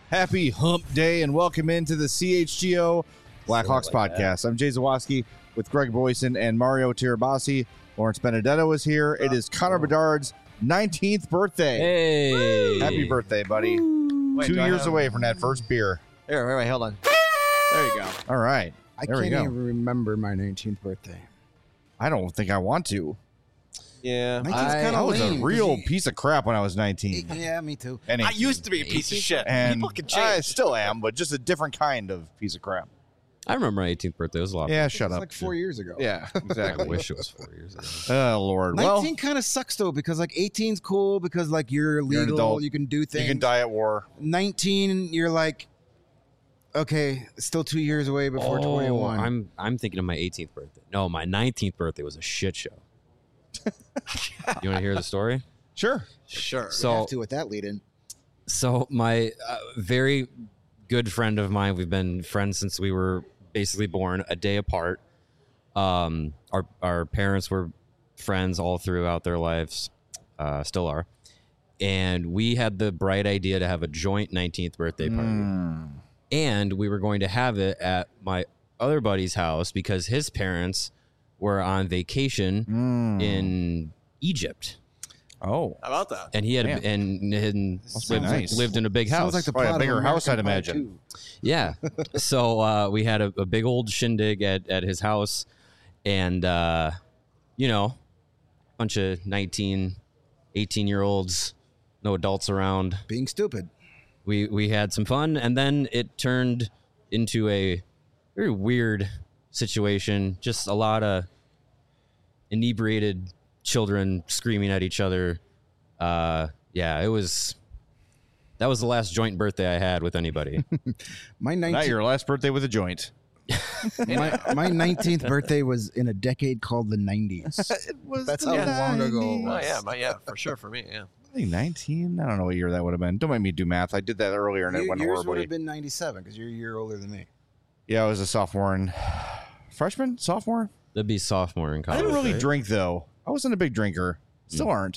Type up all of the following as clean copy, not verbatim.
Happy Hump Day and welcome into the CHGO Blackhawks podcast. I'm Jay Zawoski with Greg Boyson and Mario Tirabassi. Lawrence Benedetto is here. It is Connor Bedard's 19th birthday. Hey. Happy birthday, buddy. Wait, 2 years away from that first beer. Here, wait, hold on. There you go. All right. I There we can't go. even remember my 19th birthday. I don't think I want to. Yeah. 19's I kinda was a lame, 'cause real you- piece of crap when I was 19. Yeah, me too. And I used to be a piece of shit. and People can I change. still am, but just a different kind of piece of crap. I remember my 18th birthday. It was a lot. Yeah, It shut was up. like 4 years ago. Yeah, I exactly. wish it was 4 years ago. Oh, Lord. 19 kind of sucks though because like 18's cool because like you're legal, You're an adult. you can do things. You can die at war. 19, you're like, okay, still 2 years away before 21. I'm thinking of my 18th birthday. No, my 19th birthday was a shit show. You want to hear the story? Sure. Sure. You So have to with that lead in. So my very good friend of mine, we've been friends since we were basically born a day apart. Our parents were friends all throughout their lives, still are. And we had the bright idea to have a joint 19th birthday party. And we were going to have it at my other buddy's house because his parents were on vacation in Egypt. Oh. How about that? And he had Damn. lived, be nice. lived in a big house. Sounds like the Probably a plot bigger of house, I'd American Pie imagine. 2. Yeah. So we had a big old shindig at his house, and you know, bunch of 19, 18-year-olds, no adults around. Being stupid. We had some fun, and then it turned into a very weird situation. Just a lot of inebriated children screaming at each other. Yeah, that was the last joint birthday I had with anybody. My Not 19th, your last birthday with a joint. my 19th birthday was in a decade called the 90s. That's how long ago it was. Oh, yeah, for sure, for me, yeah. I think 19? I don't know what year that would have been. Don't make me do math. I did that earlier and it went Yours would horribly. have been 97 because you're a year older than me. Yeah, I was a sophomore and freshman? Sophomore? That'd be sophomore in I college. didn't really right? drink though. I wasn't a big drinker. Still aren't.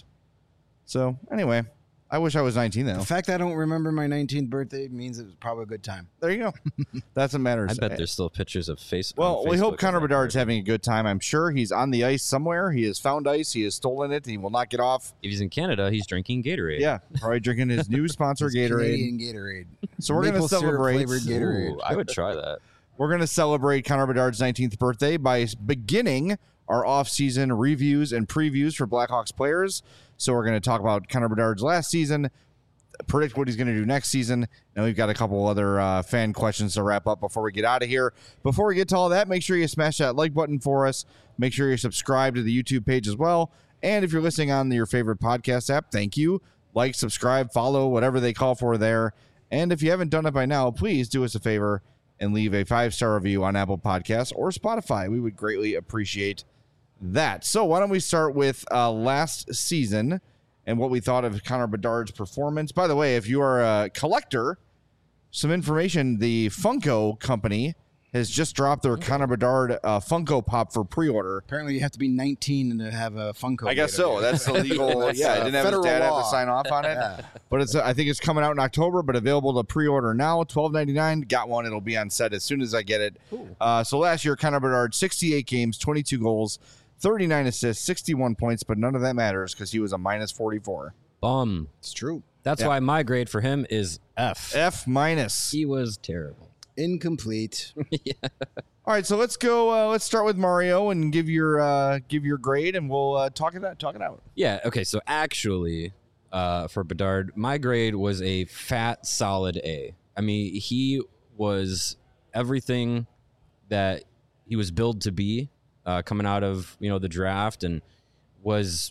So anyway, I wish I was 19 though. The fact I don't remember my 19th birthday means it was probably a good time. There you go. That's what matters. I bet there's still pictures of face. Well, on we hope Facebook Connor of that Bedard's birthday. having a good time. I'm sure he's on the ice somewhere. He has found ice. He has stolen it. He will not get off. If he's in Canada, he's drinking Gatorade. Yeah, probably drinking his new sponsor, It's Gatorade. Canadian Gatorade. So we're going to Maple syrup celebrate. flavored Gatorade. Ooh, I would try that. We're going to celebrate Connor Bedard's 19th birthday by beginning our off-season reviews and previews for Blackhawks players. So we're going to talk about Connor Bedard's last season, predict what he's going to do next season, and we've got a couple other fan questions to wrap up before we get out of here. Before we get to all that, make sure you smash that like button for us. Make sure you're subscribed to the YouTube page as well. And if you're listening on your favorite podcast app, thank you. Like, subscribe, follow, whatever they call for there. And if you haven't done it by now, please do us a favor and leave a 5-star review on Apple Podcasts or Spotify. We would greatly appreciate that. So why don't we start with last season and what we thought of Connor Bedard's performance. By the way, if you are a collector, some information, the Funko company has just dropped their Connor Bedard Funko Pop for pre-order. Apparently, you have to be 19 to have a Funko. I guess so. That's the legal. That's, Yeah, I didn't have his federal dad have law. to sign off on it. But it's. I think it's coming out in October, but available to pre-order now. $12.99. Got one. It'll be on set as soon as I get it. So last year, Connor Bedard, 68 games, 22 goals, 39 assists, 61 points, but none of that matters because he was a minus 44. Bum. It's true. That's Yeah. why my grade for him is F. F minus. He was terrible. Incomplete. All right, so let's go. Let's start with Mario and give your grade, and we'll talk it out. Yeah. Okay. So actually, for Bedard, my grade was a fat, solid A. I mean, he was everything that he was billed to be coming out of the draft, and was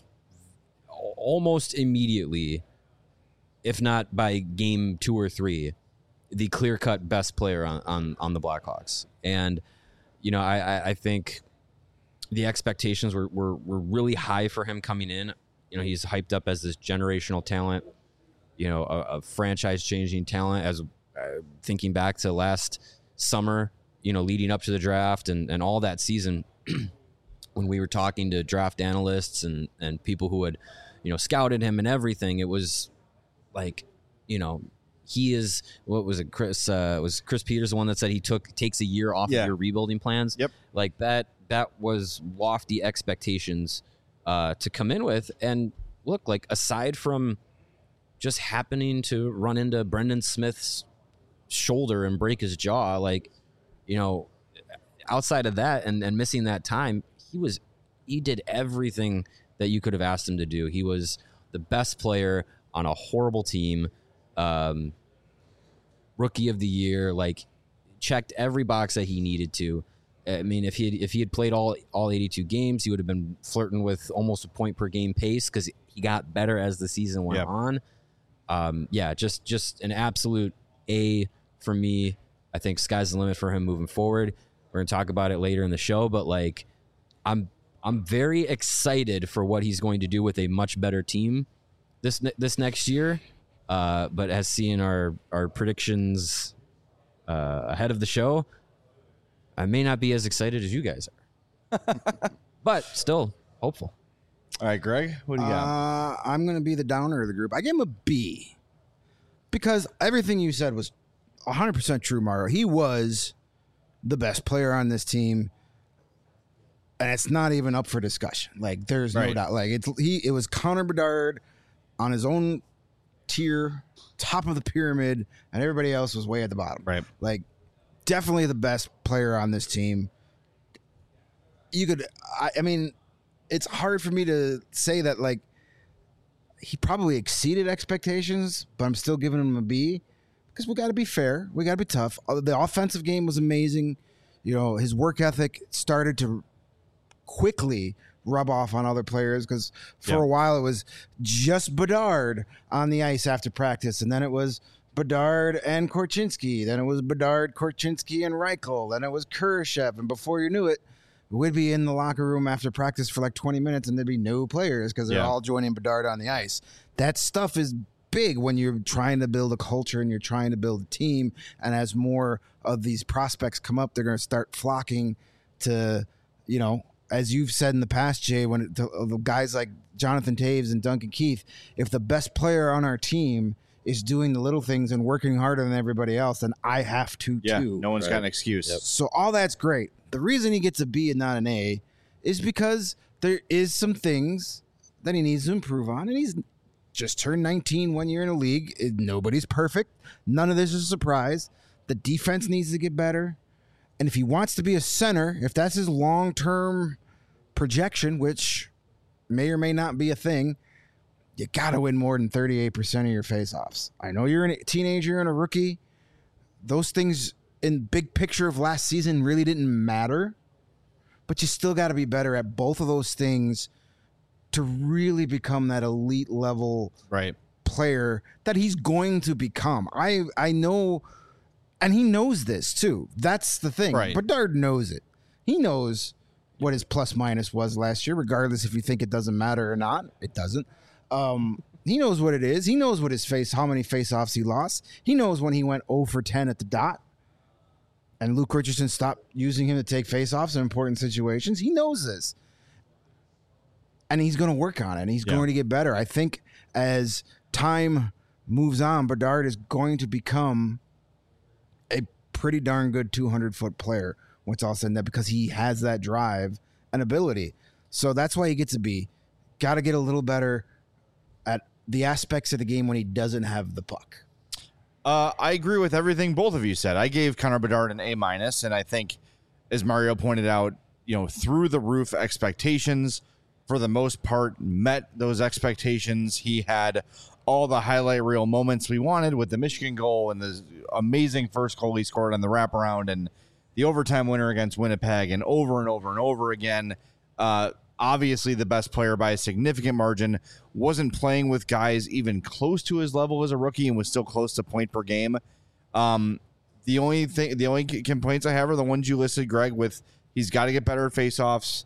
almost immediately, if not by game 2 or 3, the clear-cut best player on the Blackhawks. And I think the expectations were really high for him coming in. He's hyped up as this generational talent, a franchise-changing talent. As thinking back to last summer, leading up to the draft and all that season, when we were talking to draft analysts and people who had, scouted him and everything, it was like, he is, what was it, Chris? Was Chris Peters the one that said he takes a year off of your rebuilding plans? Yep. Like that was lofty expectations to come in with. And look, like aside from just happening to run into Brendan Smith's shoulder and break his jaw, like, you know, outside of that and missing that time, he did everything that you could have asked him to do. He was the best player on a horrible team, rookie of the year, like checked every box that he needed to. I mean, if he had played all 82 games, he would have been flirting with almost a point per game pace because he got better as the season went on. Just an absolute A for me. I think sky's the limit for him moving forward. We're gonna talk about it later in the show, but like, I'm very excited for what he's going to do with a much better team this next year. But as seeing our predictions ahead of the show, I may not be as excited as you guys are, but still hopeful. All right, Greg, what do you got? I'm going to be the downer of the group. I gave him a B because everything you said was 100% true, Mario. He was the best player on this team, and it's not even up for discussion. Like, there's no doubt. Like, it was Connor Bedard on his own tier, top of the pyramid, and everybody else was way at the bottom. Right. Like, definitely the best player on this team. I mean, it's hard for me to say that, like, he probably exceeded expectations, but I'm still giving him a B because we got to be fair. We got to be tough. The offensive game was amazing. You know, his work ethic started to quickly rub off on other players because for a while it was just Bedard on the ice after practice, and then it was Bedard and Korchinski. Then it was Bedard, Korchinski, and Reichel. Then it was Kurashev. And before you knew it, we'd be in the locker room after practice for like 20 minutes and there'd be no players because they're all joining Bedard on the ice. That stuff is big when you're trying to build a culture and you're trying to build a team. And as more of these prospects come up, they're going to start flocking to, you know, as you've said in the past, Jay, when the guys like Jonathan Taves and Duncan Keith, if the best player on our team is doing the little things and working harder than everybody else, then I have to too. No one's got an excuse. Yep. So all that's great. The reason he gets a B and not an A is because there is some things that he needs to improve on, and he's just turned 19 1 year in the league. Nobody's perfect. None of this is a surprise. The defense needs to get better. And if he wants to be a center, if that's his long-term projection, which may or may not be a thing, you got to win more than 38% of your faceoffs. I know you're a teenager and a rookie. Those things in big picture of last season really didn't matter, but you still got to be better at both of those things to really become that elite level player that he's going to become. I know, and he knows this too. That's the thing. Right. Bedard knows it. He knows what his plus minus was last year, regardless if you think it doesn't matter or not. It doesn't. He knows what it is. He knows what how many faceoffs he lost. He knows when he went 0 for 10 at the dot and Luke Richardson stopped using him to take faceoffs in important situations. He knows this. And he's going to work on it. And he's going to get better. I think as time moves on, Bedard is going to become a pretty darn good 200-foot player once all said and done because he has that drive and ability. So that's why he gets a B. Got to get a little better at the aspects of the game when he doesn't have the puck. I agree with everything both of you said. I gave Connor Bedard an A-, and I think, as Mario pointed out, you know, through the roof expectations, for the most part, met those expectations. He had all the highlight reel moments we wanted with the Michigan goal and the amazing first goal he scored on the wraparound and the overtime winner against Winnipeg and over again. Obviously the best player by a significant margin, wasn't playing with guys even close to his level as a rookie and was still close to point per game. The only complaints I have are the ones you listed, Greg, with he's got to get better at faceoffs.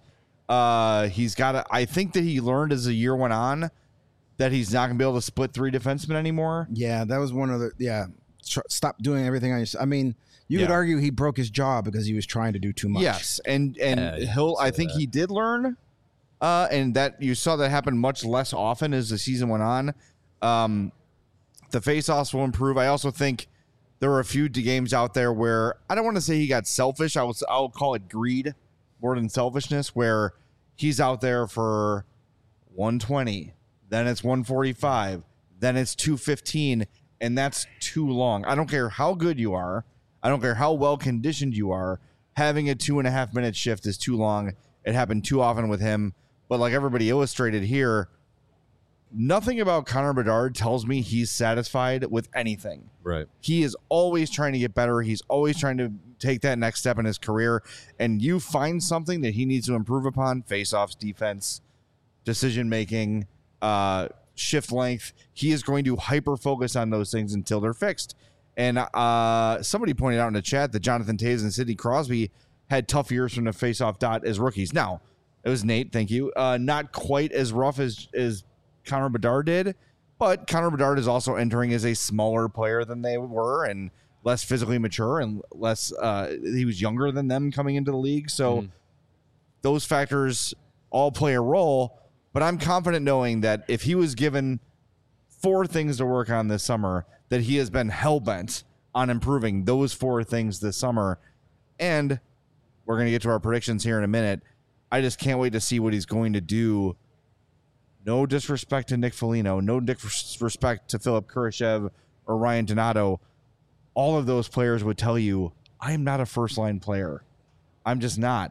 I think that he learned as the year went on that he's not going to be able to split three defensemen anymore. Yeah, that was one of the, stop doing everything on your, I mean, you could argue he broke his jaw because he was trying to do too much. Yes, and I think he did learn, and that you saw that happen much less often as the season went on. The faceoffs will improve. I also think there were a few games out there where I don't want to say he got selfish. I'll call it greed more than selfishness, where he's out there for 120, then it's 145, then it's 215, and that's too long. I don't care how good you are. I don't care how well conditioned you are. Having a 2.5 minute shift is too long. It happened too often with him. But like everybody illustrated here, nothing about Connor Bedard tells me he's satisfied with anything. Right. He is always trying to get better. He's always trying to take that next step in his career. And you find something that he needs to improve upon: faceoffs, defense, decision making, shift length. He is going to hyper focus on those things until they're fixed. And somebody pointed out in the chat that Jonathan Toews and Sidney Crosby had tough years from the faceoff dot as rookies. Now, it was Nate, thank you. Not quite as rough as Connor Bedard did, but Connor Bedard is also entering as a smaller player than they were and less physically mature and less he was younger than them coming into the league. So those factors all play a role, but I'm confident knowing that if he was given 4 things to work on this summer, that he has been hell-bent on improving those 4 things this summer. And we're going to get to our predictions here in a minute. I just can't wait to see what he's going to do. No disrespect to Nick Foligno, no disrespect to Philip Kurashev or Ryan Donato. All of those players would tell you, I am not a first-line player. I'm just not.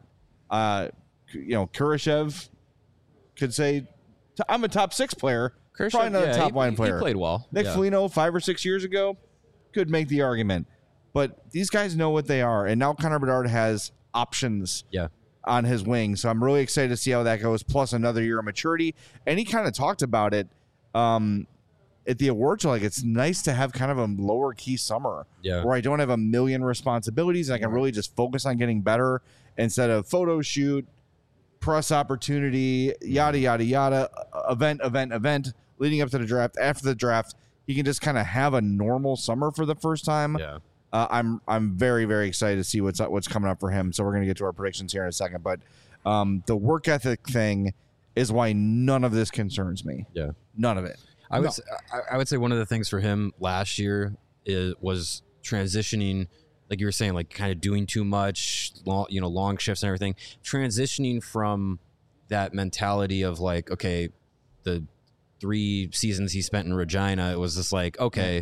Kurashev could say, I'm a top 6 player. Kurashev, probably not a top-line player. He played well. Nick Foligno, 5 or 6 years ago, could make the argument. But these guys know what they are. And now Connor Bedard has options on his wing. So I'm really excited to see how that goes, plus another year of maturity. And he kind of talked about it at the awards show. Like, it's nice to have kind of a lower key summer where I don't have a million responsibilities and I can really just focus on getting better instead of photo shoot, press opportunity, yada, yada, yada, event, leading up to the draft. After the draft, he can just kind of have a normal summer for the first time. Yeah. I'm very, very excited to see what's coming up for him. So we're going to get to our predictions here in a second. But the work ethic thing is why none of this concerns me. Yeah, none of it. I would say one of the things for him last year was transitioning, like you were saying, like kind of doing too much, long shifts and everything. Transitioning from that mentality of like, okay, the 3 seasons he spent in Regina, it was just like, okay,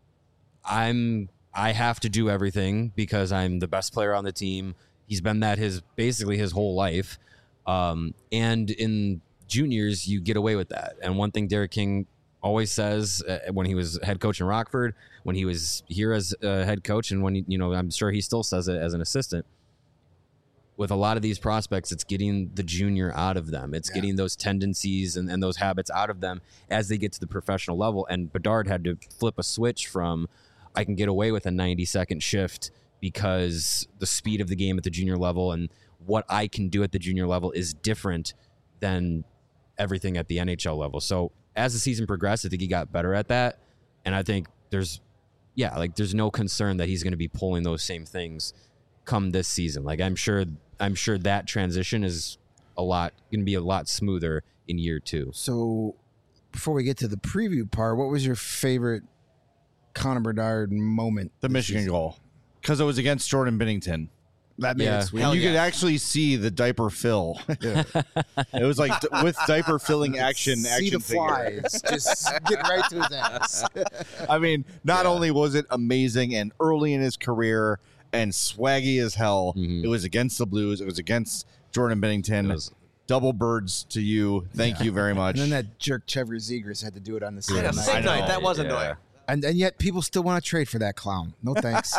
I have to do everything because I'm the best player on the team. He's been that basically his whole life. And in juniors, you get away with that. And one thing Derek King always says when he was head coach in Rockford, when he was here as a head coach, and when I'm sure he still says it as an assistant, with a lot of these prospects, it's getting the junior out of them. It's getting those tendencies and those habits out of them as they get to the professional level. And Bedard had to flip a switch from, I can get away with a 90-second shift because the speed of the game at the junior level and what I can do at the junior level is different than everything at the NHL level. So as the season progressed, I think he got better at that. And I think there's no concern that he's going to be pulling those same things come this season. Like I'm sure that transition is going to be a lot smoother in year 2. So before we get to the preview part, what was your favorite Connor Bedard moment? The Michigan goal, because it was against Jordan Binnington. That made it sweet. And you could actually see the diaper fill. It was like with diaper filling action. See the flies. Just get right to his ass. I mean, not only was it amazing and early in his career and swaggy as hell, it was against the Blues. It was against Jordan Binnington. Double birds to you. Thank you very much. And then that jerk Trevor Zegras had to do it on the same night. That was annoying. And yet people still want to trade for that clown. No thanks.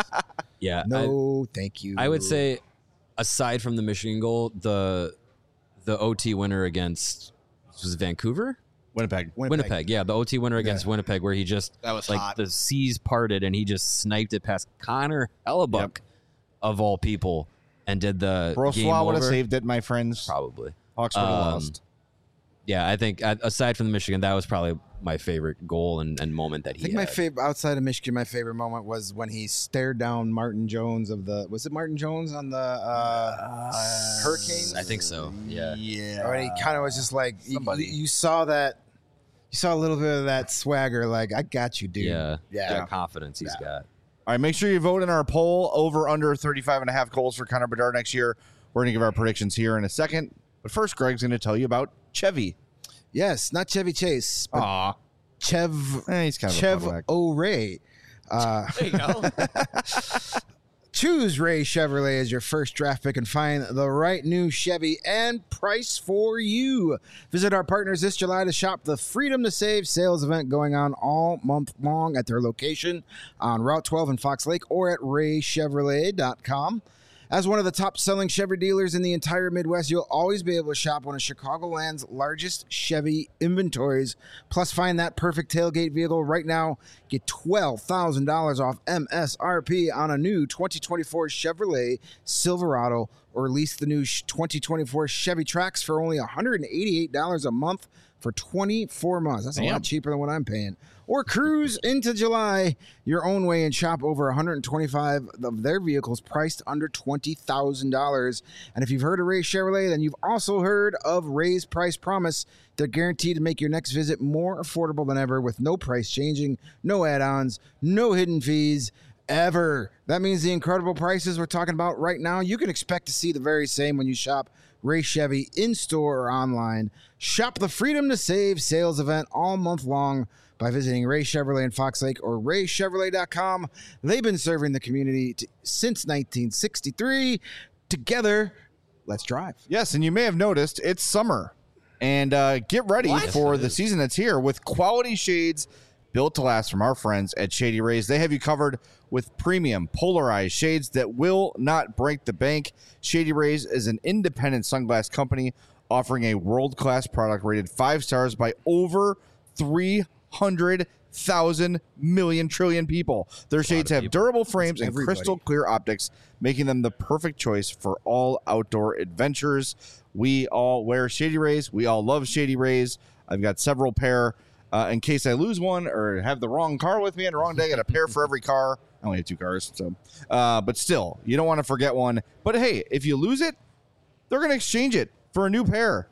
Thank you. I would say, aside from the Michigan goal, the OT winner against was it Vancouver? Winnipeg. Yeah, the OT winner against Winnipeg, where he just that was like hot. The seas parted and he just sniped it past Connor Hellebuck of all people and did the game Brossoit would over. have saved it, my friends. Probably. Hawks would have lost. Yeah, I think aside from the Michigan, that was probably my favorite goal and moment that he I think had. my favorite outside of Michigan, my favorite moment was when he stared down Martin Jones was it Martin Jones on the Hurricanes? I think so. Yeah. Or he kind of was just like you saw that You saw a little bit of that swagger, like, I got you, dude. Yeah. Yeah. That confidence he's got. All right, make sure you vote in our poll over under 35.5 goals for Connor Bedard next year. We're going to give our predictions here in a second. But first, Greg's going to tell you about Chevy. Yes, not Chevy Chase, but Aw. Chev He's kind of a Chev fuckback. O'Ray. There you go. Choose Ray Chevrolet as your first draft pick and find the right new Chevy and price for you. Visit our partners this July to shop the Freedom to Save sales event going on all month long at their location on Route 12 in Fox Lake or at raychevrolet.com. As one of the top-selling Chevy dealers in the entire Midwest, you'll always be able to shop one of Chicagoland's largest Chevy inventories. Plus, find that perfect tailgate vehicle right now. Get $12,000 off MSRP on a new 2024 Chevrolet Silverado, or lease the new 2024 Chevy Trax for only $188 a month for 24 months. That's a lot cheaper than what I'm paying. Or cruise into July your own way and shop over 125 of their vehicles priced under $20,000. And if you've heard of Ray Chevrolet, then you've also heard of Ray's Price Promise. They're guaranteed to make your next visit more affordable than ever with no price changing, no add-ons, no hidden fees, ever. That means the incredible prices we're talking about right now, you can expect to see the very same when you shop Ray Chevy in-store or online. Shop the Freedom to Save sales event all month long by visiting Ray Chevrolet in Fox Lake or raychevrolet.com. They've been serving the community since 1963. Together, let's drive. Yes, and you may have noticed it's summer. And get ready for the season that's here with quality shades built to last from our friends at Shady Rays. They have you covered with premium polarized shades that will not break the bank. Shady Rays is an independent sunglass company offering a world-class product rated 5 stars by over 300,000 million trillion people. Their shades have durable frames and crystal clear optics, making them the perfect choice for all outdoor adventures. We all wear Shady Rays. We all love Shady Rays. I've got several pair. In case I lose one or have the wrong car with me on the wrong day, I got a pair for every car. I only have 2 cars, so but still, you don't want to forget one. But hey, if you lose it, they're going to exchange it for a new pair.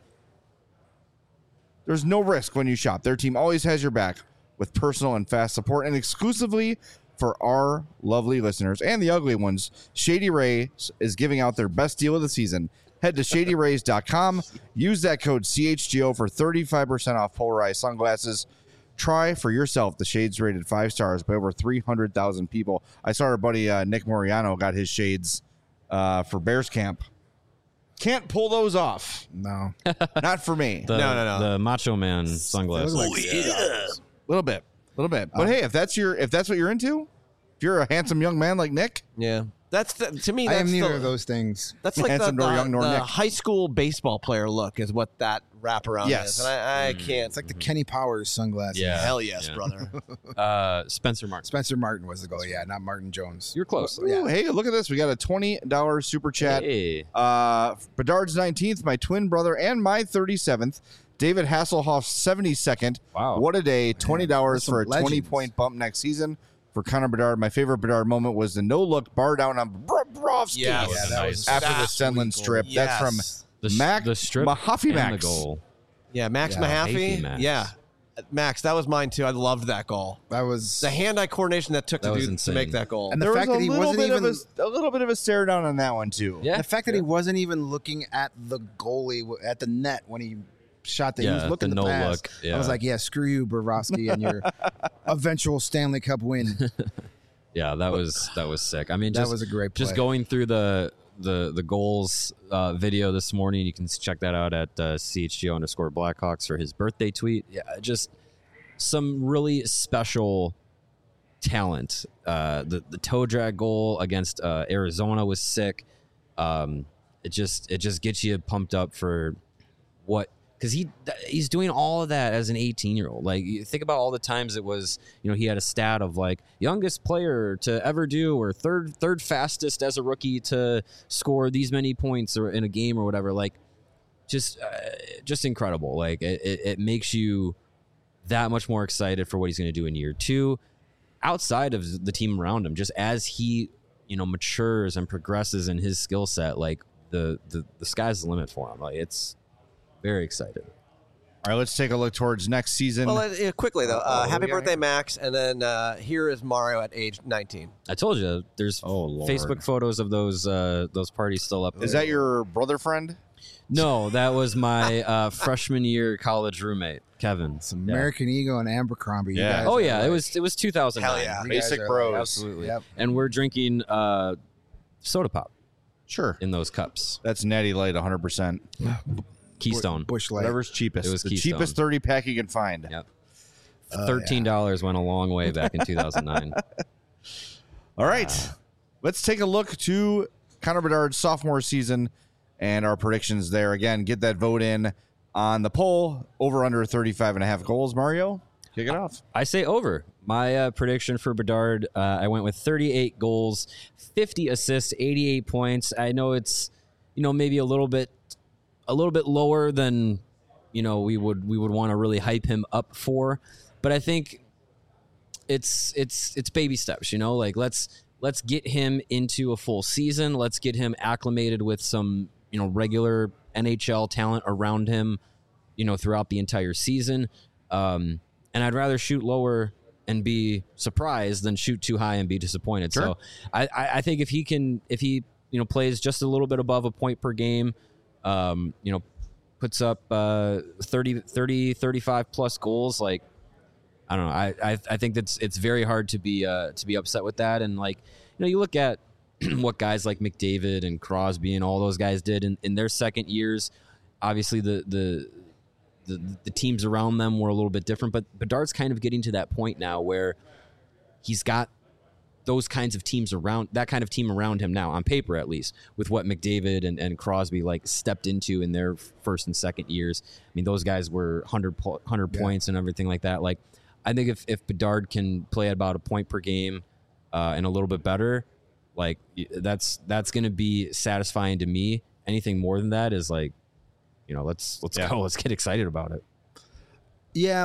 There's no risk when you shop. Their team always has your back with personal and fast support, and exclusively for our lovely listeners and the ugly ones, Shady Rays is giving out their best deal of the season. Head to shadyrays.com. Use that code CHGO for 35% off polarized sunglasses. Try for yourself the shades rated 5 stars by over 300,000 people. I saw our buddy Nick Moriano got his shades for Bears Camp. Can't pull those off. No. Not for me. No. The Macho Man sunglasses. A little bit. But hey, if that's what you're into, if you're a handsome young man like Nick, Yeah. To me, I that's am neither the, of those things. That's like Handsome nor young nor the Nick. high school baseball player look is what that wraparound Yes. is. And I can't. It's like the Kenny Powers sunglasses. Yeah. Hell yes, Yeah. brother. Spencer Martin. Spencer Martin was the goal. Yeah, not Martin Jones. You're close. ooh, hey, look at this. We got a $20 super chat. Hey. Bedard's 19th, my twin brother, and my 37th. David Hasselhoff's 72nd. Wow. What a day. $20 for a legends. 20-point bump next season for Connor Bedard. My favorite Bedard moment was the no-look bar down on Bobrovsky Yes. Yeah, that was after the That's Stenlund really strip. cool. That's from Yes. The strip Mahaffey and Max. the goal. Yeah, Max Yeah, Mahaffey. Max. Yeah. Max, that was mine too. I loved that goal. That was The hand-eye coordination that took That to was to insane. make that goal. And the There fact was that he a little wasn't bit even of a little bit of a stare down on that one too. Yeah. the fact that he wasn't even looking at the goalie at the net when he shot that. He was Yeah, looking the to no pass. look, yeah. I was like, yeah, screw you, Bobrovsky, and your eventual Stanley Cup win. Yeah, that was sick. I mean, That just, was a great play. Just going through the goals video this morning, you can check that out at CHGO_Blackhawks for his birthday tweet. Yeah, just some really special talent. The toe drag goal against Arizona was sick. It just gets you pumped up for what. Because he's doing all of that as an 18-year-old. Like, you think about all the times it was, he had a stat of like youngest player to ever do, or third fastest as a rookie to score these many points or in a game or whatever. Like, just incredible. Like, it makes you that much more excited for what he's going to do in year 2, outside of the team around him. Just as he matures and progresses in his skill set, like the sky's the limit for him. Like, it's very excited. All right, let's take a look towards next season. Well, quickly though, happy yeah, birthday, yeah. Max, and then here is Mario at age 19. I told you, there's Lord. Facebook photos of those parties still up. Is that your brother friend? No, that was my freshman year college roommate, Kevin. It's American Eagle and Abercrombie. You Yeah. guys Oh are yeah, like- it was 2009. Hell yeah. you guys Basic are bros. like- Absolutely. Yep. And we're drinking soda pop Sure. in those cups. That's Natty Light, 100%. Keystone. Bush Light. Whatever's cheapest. It was the Keystone. cheapest 30 pack you can find. Yep. $13 went a long way back in 2009. All right. Let's take a look to Connor Bedard's sophomore season and our predictions there. Again, get that vote in on the poll. Over under 35.5 goals. Mario, kick it off. I say over. My prediction for Bedard, I went with 38 goals, 50 assists, 88 points. I know it's, maybe a little bit lower than, we would want to really hype him up for, but I think it's baby steps. Like let's get him into a full season. Let's get him acclimated with some regular NHL talent around him, throughout the entire season. And I'd rather shoot lower and be surprised than shoot too high and be disappointed. Sure. So I think if he plays just a little bit above a point per game, puts up 30, 35 plus goals, like, I don't know. I think it's very hard to be upset with that. And like, you look at what guys like McDavid and Crosby and all those guys did in their second years. Obviously the teams around them were a little bit different, but Bedard's kind of getting to that point now where he's got those kinds of teams around, that kind of team around him now, on paper at least, with what McDavid and Crosby like stepped into in their first and second years. I mean, those guys were 100 points and everything like that. Like, I think if Bedard can play at about a point per game and a little bit better, like that's going to be satisfying to me. Anything more than that is like, let's go. Let's get excited about it. Yeah,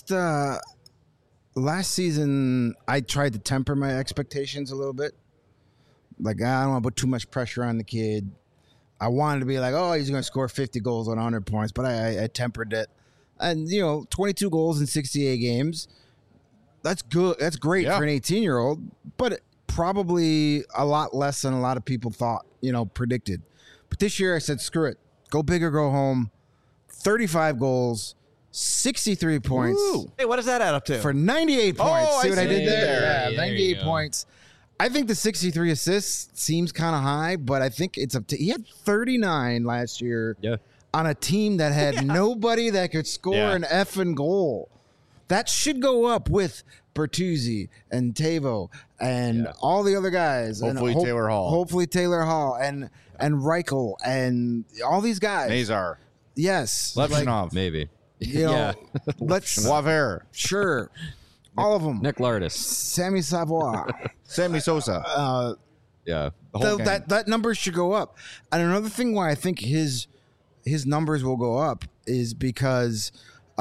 last season I tried to temper my expectations a little bit. Like, I don't want to put too much pressure on the kid. I wanted to be like, oh, he's going to score 50 goals on 100 points, but I tempered it. And 22 goals in 68 games. That's good. That's great for an 18-year-old, but probably a lot less than a lot of people thought, predicted. But this year I said, screw it. Go big or go home. 35 goals, 63 points. Woo. Hey, what does that add up to? For 98 points. Oh, See I what I see. did there? There Yeah, you 98 go. points. I think the 63 assists seems kind of high, but I think it's up to. He had 39 last year on a team that had nobody that could score an effing goal. That should go up with Bertuzzi and Tavo and all the other guys. Hopefully and Taylor Hall. Hopefully Taylor Hall and Reichel and all these guys. Nazar. Yes. Lepshinov. Maybe. Let's Waver. sure. All of them. Nick Lardis. Sammy Savoy. Sammy Sosa. Yeah. The whole gang. that number should go up. And another thing why I think his numbers will go up is because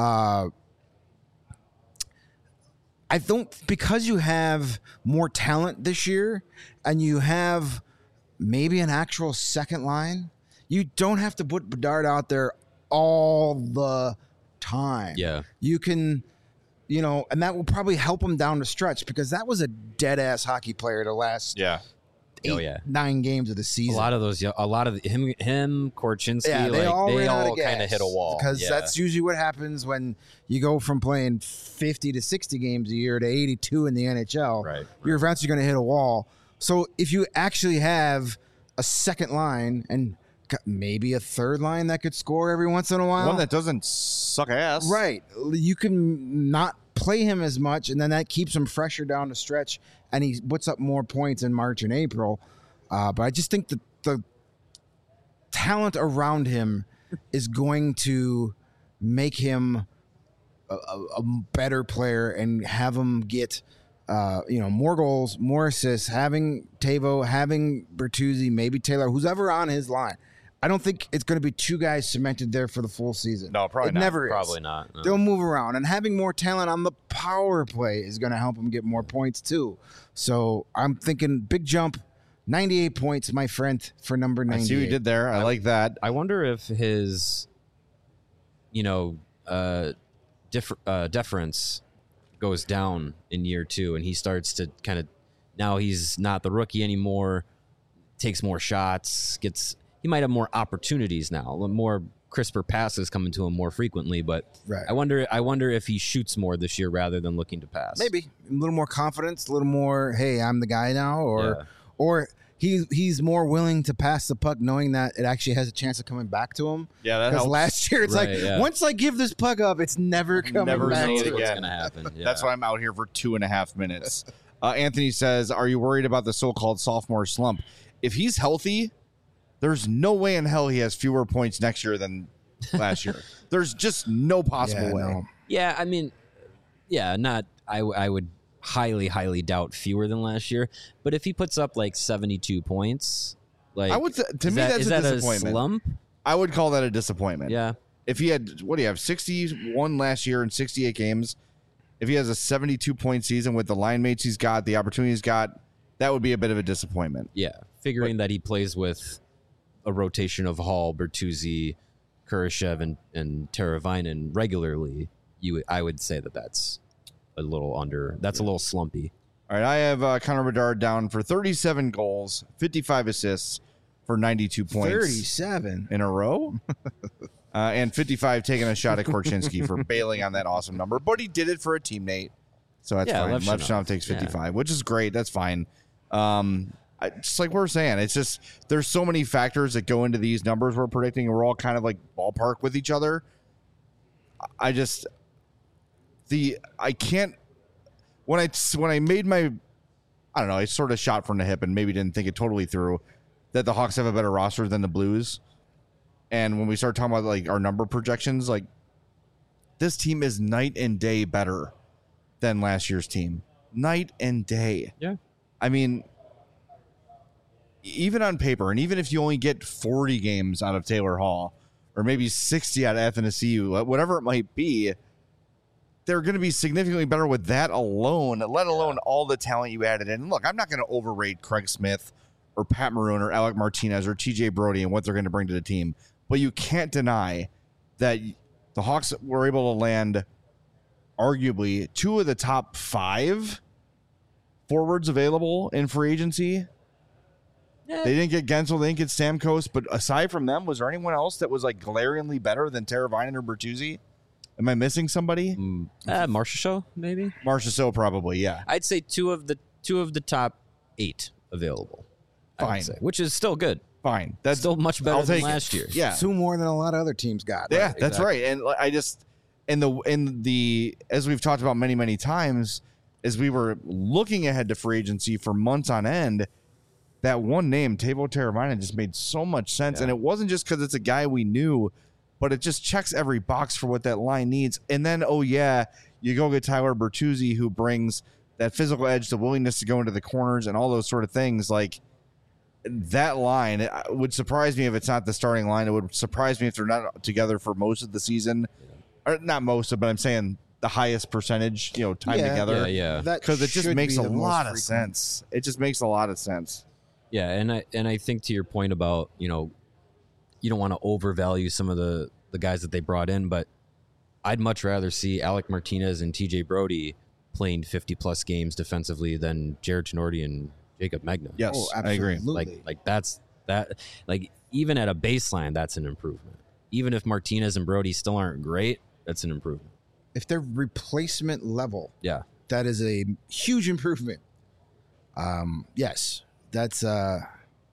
because you have more talent this year and you have maybe an actual second line, you don't have to put Bedard out there all the time. Yeah. You can, and that will probably help him down the stretch because that was a dead ass hockey player the last Yeah. 9 games of the season. A lot of him, Korchinski, Yeah, they all ran out of kind of gas hit a wall. because that's usually what happens when you go from playing 50 to 60 games a year to 82 in the NHL. Right. You're eventually going to hit a wall. So if you actually have a second line and maybe a third line that could score every once in a while, One that doesn't suck ass. right, you can not play him as much, and then that keeps him fresher down the stretch, and he puts up more points in March and April. But I just think that the talent around him is going to make him a better player and have him get more goals, more assists, having Tavo, having Bertuzzi, maybe Taylor, who's ever on his line. I don't think it's going to be 2 guys cemented there for the full season. No, probably it not. never is. Probably not. No. They'll move around, and having more talent on the power play is going to help him get more points too. So I'm thinking big jump, 98 points, my friend, for number 98. I see what you did there. I like that. I wonder if his, deference goes down in year 2, and he starts to kind of, now he's not the rookie anymore, takes more shots, he might have more opportunities now, more crisper passes coming to him more frequently, but Right. I wonder if he shoots more this year rather than looking to pass. Maybe a little more confidence, a little more, hey, I'm the guy now, or he's more willing to pass the puck knowing that it actually has a chance of coming back to him. Yeah, that Because helps. last year it's Right, like, yeah. once I give this puck up, it's never coming Never back see to it me. what's again. going to happen. Yeah. That's why I'm out here for 2.5 minutes. Anthony says, are you worried about the so-called sophomore slump? If he's healthy, there's no way in hell he has fewer points next year than last year. There's just no possible Yeah, way. no. Yeah, I mean, I would highly doubt fewer than last year. But if he puts up like 72 points, like I would to is me that- that's is a that disappointment. slump? I would call that a disappointment. Yeah, If he had, what do you have, 61 last year in 68 games, if he has a 72-point season with the line mates he's got, the opportunity he's got, that would be a bit of a disappointment. yeah. Figuring that he plays with a rotation of Hall, Bertuzzi, Kurashev, and Teravainen regularly, I would say that's a little That's a little slumpy. All right, I have Connor Bedard down for 37 goals, 55 assists for 92 points 37. in a row. And 55 taking a shot at Korchinski for bailing on that awesome number. But he did it for a teammate. So that's Yeah, fine. Levchinov. Levchinov takes 55, which is great. That's fine. Just like we're saying, it's just there's so many factors that go into these numbers we're predicting, and we're all kind of like ballpark with each other. I can't when I made my, I don't know, I sort of shot from the hip and maybe didn't think it totally through that the Hawks have a better roster than the Blues. And when we start talking about like our number projections, like this team is night and day better than last year's team. Night and day. Yeah. I mean, even on paper, and even if you only get 40 games out of Taylor Hall, or maybe 60 out of FNSU, whatever it might be, they're going to be significantly better with that alone, let alone all the talent you added in. Look, I'm not going to overrate Craig Smith or Pat Maroon or Alec Martinez or TJ Brody and what they're going to bring to the team. But you can't deny that the Hawks were able to land arguably 2 of the top 5 forwards available in free agency. They didn't get Gensel, they didn't get Stamkos, but aside from them, was there anyone else that was like glaringly better than Teravainen or Bertuzzi? Am I missing somebody? Marcia Show, maybe. Marcia So probably, yeah. I'd say two of the top 8 available. I would Fine. say, which is still good. Fine. That's Still much better I'll than take it. last year. Yeah. 2 more than a lot of other teams got. Yeah, that's exactly. right. And I just in the as we've talked about many times, as we were looking ahead to free agency for months on end, that one name, Teuvo Teravainen, just made so much sense. Yeah. And it wasn't just because it's a guy we knew, but it just checks every box for what that line needs. And then, oh yeah, you go get Tyler Bertuzzi, who brings that physical edge, the willingness to go into the corners, and all those sort of things. Like that line, it would surprise me if it's not the starting line. It would surprise me if they're not together for most of the season, or not most of, but I'm saying the highest percentage, time Yeah. together. Yeah. That Because it just should makes be a the most lot of frequent. sense. It just makes a lot of sense. Yeah, and I think to your point about, you don't want to overvalue some of the guys that they brought in, but I'd much rather see Alec Martinez and TJ Brody playing 50 plus games defensively than Jared Tenorti and Jacob Megna. Yes, Oh, I agree. absolutely. Like that's even at a baseline, that's an improvement. Even if Martinez and Brody still aren't great, that's an improvement. If they're replacement level, Yeah. that is a huge improvement. Yes, that's a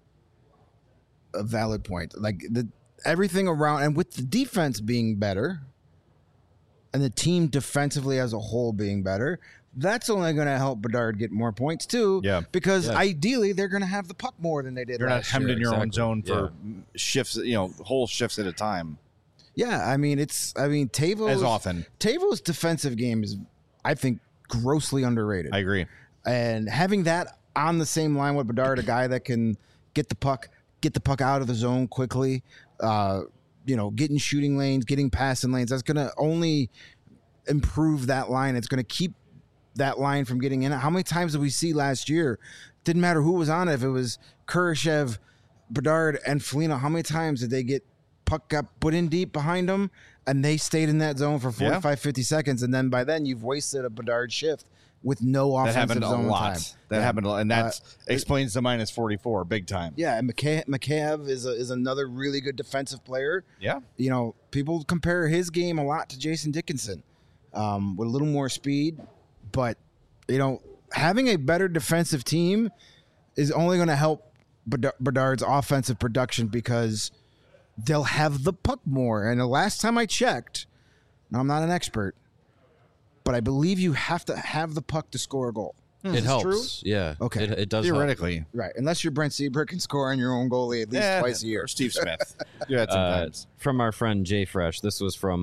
valid point. Like everything around, and with the defense being better, and the team defensively as a whole being better, that's only going to help Bedard get more points too. Yeah. because Yeah. ideally they're going to have the puck more than they did. You're not last hemmed year. in your own exactly. zone for shifts, whole shifts at a time Yeah, I mean Teuvo's as often. Teuvo's defensive game is, I think, grossly underrated. I agree. And having that on the same line with Bedard, a guy that can get the puck out of the zone quickly, getting shooting lanes, getting passing lanes, that's going to only improve that line. It's going to keep that line from getting in. How many times did we see last year? Didn't matter who was on it. If it was Kurashev, Bedard, and Foligno, how many times did they get puck got put in deep behind them, and they stayed in that zone for 45, 50 seconds, and then by then you've wasted a Bedard shift with no That offensive happened a zone lot. time. That happened a lot, and that explains the minus 44 big time. Yeah, and Mikheyev is another really good defensive player. Yeah. You know, people compare his game a lot to Jason Dickinson, with a little more speed, but you know, having a better defensive team is only going to help Bedard's offensive production because they'll have the puck more. And the last time I checked, now I'm not an expert, but I believe you have to have the puck to score a goal. It helps. True? Yeah. Okay. It does help. Theoretically. Right. Unless you're Brent Seabrook and score on your own goalie at least twice a year. Or Steve Smith. Do that sometimes. From our friend Jay Fresh. This was from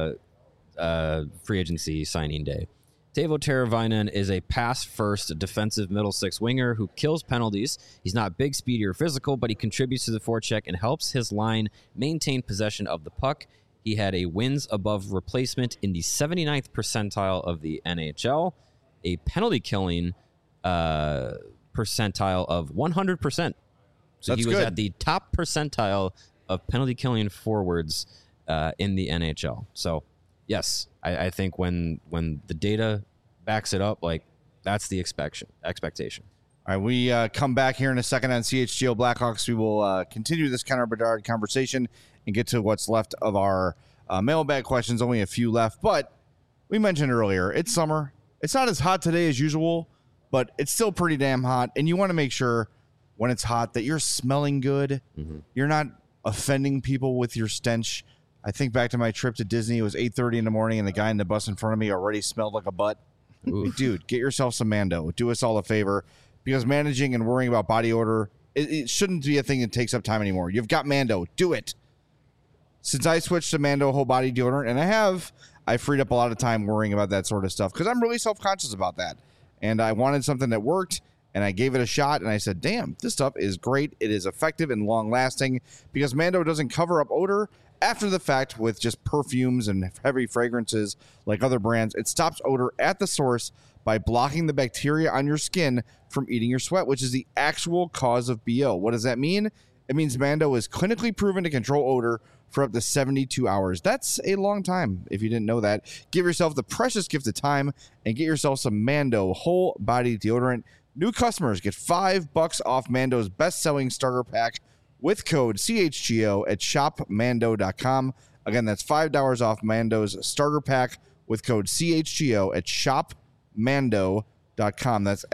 free agency signing day. Teuvo Teravainen is a pass-first defensive middle six winger who kills penalties. He's not big, speedy, or physical, but he contributes to the forecheck and helps his line maintain possession of the puck. He had a wins above replacement in the 79th percentile of the NHL, a penalty killing percentile of 100%. So That's he was good. at the top percentile of penalty killing forwards in the NHL. So yes, I think when the data backs it up, like that's the expectation. All right, we come back here in a second on CHGO Blackhawks. We will continue this Connor Bedard conversation and get to what's left of our mailbag questions. Only a few left, but we mentioned earlier, it's summer. It's not as hot today as usual, but it's still pretty damn hot. And you want to make sure when it's hot that you're smelling good. Mm-hmm. You're not offending people with your stench. I think back to my trip to Disney. It was 8:30 in the morning, and the guy in the bus in front of me already smelled like a butt. Like, dude, get yourself some Mando. Do us all a favor, because managing and worrying about body odor, it shouldn't be a thing that takes up time anymore. You've got Mando. Do it. Since I switched to Mando whole body deodorant, and I freed up a lot of time worrying about that sort of stuff because I'm really self-conscious about that. And I wanted something that worked, and I gave it a shot, and I said, damn, this stuff is great. It is effective and long-lasting because Mando doesn't cover up odor after the fact with just perfumes and heavy fragrances like other brands. It stops odor at the source by blocking the bacteria on your skin from eating your sweat, which is the actual cause of BO. What does that mean? It means Mando is clinically proven to control odor for up to 72 hours. That's a long time if you didn't know that. Give yourself the precious gift of time and get yourself some Mando whole body deodorant. New customers get $5 off Mando's best-selling starter pack with code CHGO at shopmando.com. Again, that's $5 off Mando's starter pack with code CHGO at shopmando.com. That's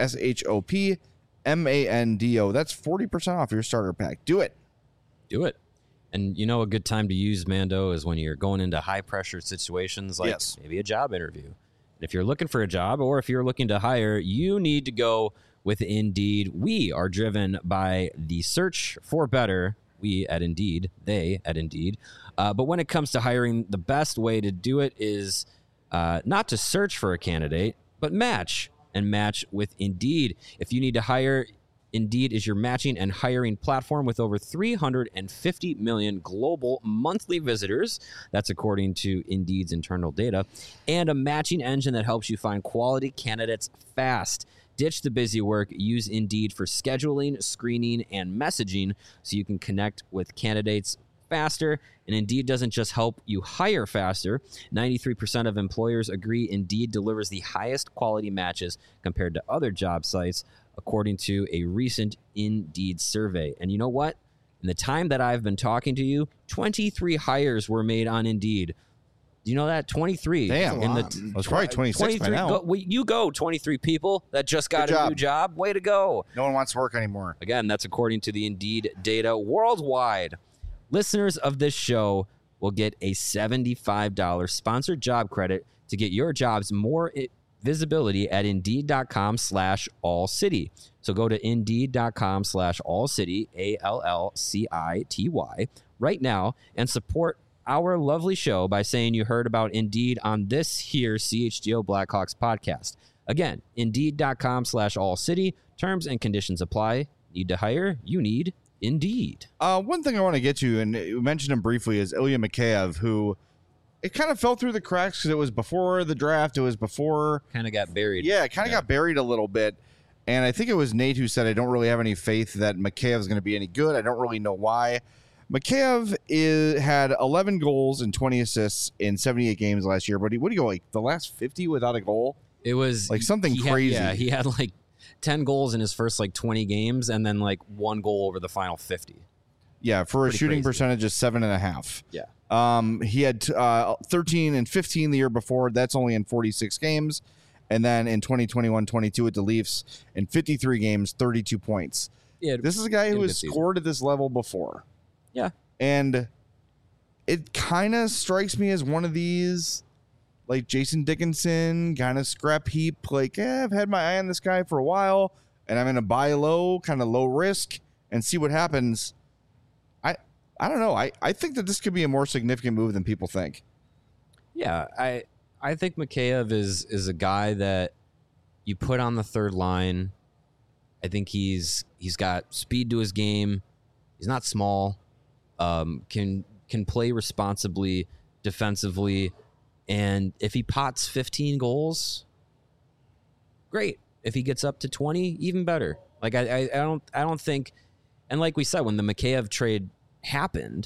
SHOPMANDO. That's 40% off your starter pack. Do it. Do it. And you know, a good time to use Mando is when you're going into high pressure situations like maybe a job interview. And if you're looking for a job or if you're looking to hire, you need to go with Indeed. We are driven by the search for better. We at Indeed, they at Indeed. But when it comes to hiring, the best way to do it is not to search for a candidate, but match with Indeed. If you need to hire, Indeed is your matching and hiring platform with over 350 million global monthly visitors. That's according to Indeed's internal data. And a matching engine that helps you find quality candidates fast. Ditch the busy work. Use Indeed for scheduling, screening, and messaging so you can connect with candidates faster. And Indeed doesn't just help you hire faster. 93% of employers agree Indeed delivers the highest quality matches compared to other job sites, according to a recent Indeed survey. And you know what? In the time that I've been talking to you, 23 hires were made on Indeed. Do you know that? 23. Damn. It's probably 26 by now. You go, 23 people that just got a new job. Way to go. No one wants to work anymore. Again, that's according to the Indeed data worldwide. Listeners of this show will get a $75 sponsored job credit to get your jobs more visibility at Indeed.com/allcity. So go to Indeed.com/allcity, ALLCITY, right now and support our lovely show by saying you heard about Indeed on this here CHGO Blackhawks podcast. Again, Indeed.com/allcity. Terms and conditions apply. Need to hire? You need Indeed. One thing I want to get to, and you mentioned him briefly, is Ilya Mikheyev, who it kind of fell through the cracks because it was before the draft. It was before. Kind of got buried. Yeah, it kind of got buried a little bit. And I think it was Nate who said, I don't really have any faith that Mikheyev is going to be any good. I don't really know why. Mikheyev had 11 goals and 20 assists in 78 games last year. But what do you go, like the last 50 without a goal? It was like something crazy. He had like 10 goals in his first like 20 games and then like 1 goal over the final 50. Yeah, for Pretty a shooting crazy. percentage of 7.5. Yeah. He had 13 and 15 the year before. That's only in 46 games. And then in 2021-22 with the Leafs, in 53 games, 32 points. Yeah. This is a guy had a who good has season. scored at this level before. Yeah. And it kind of strikes me as one of these, like Jason Dickinson, kind of scrap heap. Like, I've had my eye on this guy for a while, and I'm going to buy low, kind of low risk, and see what happens. I don't know. I think that this could be a more significant move than people think. Yeah, I think Mikheyev is a guy that you put on the third line. I think he's got speed to his game. He's not small. Can play responsibly defensively, and if he pots 15 goals, great. If he gets up to 20, even better. Like I don't think, and like we said, when the Mikheyev trade happened,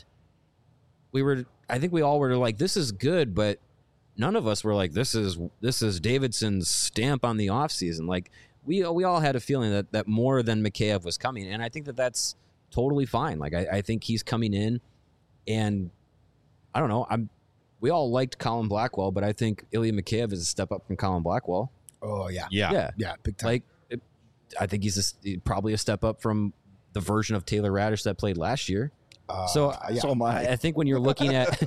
I think we all were like, this is good, but none of us were like, this is Davidson's stamp on the offseason. Like we all had a feeling that more than Mikheyev was coming, and I think that's totally fine. Like I think he's coming in, and I don't know. We all liked Colin Blackwell, but I think Ilya Mikheyev is a step up from Colin Blackwell. Oh yeah, Yeah, big time. like I think he's probably a step up from the version of Taylor Radish that played last year. So am I. I think when you're looking at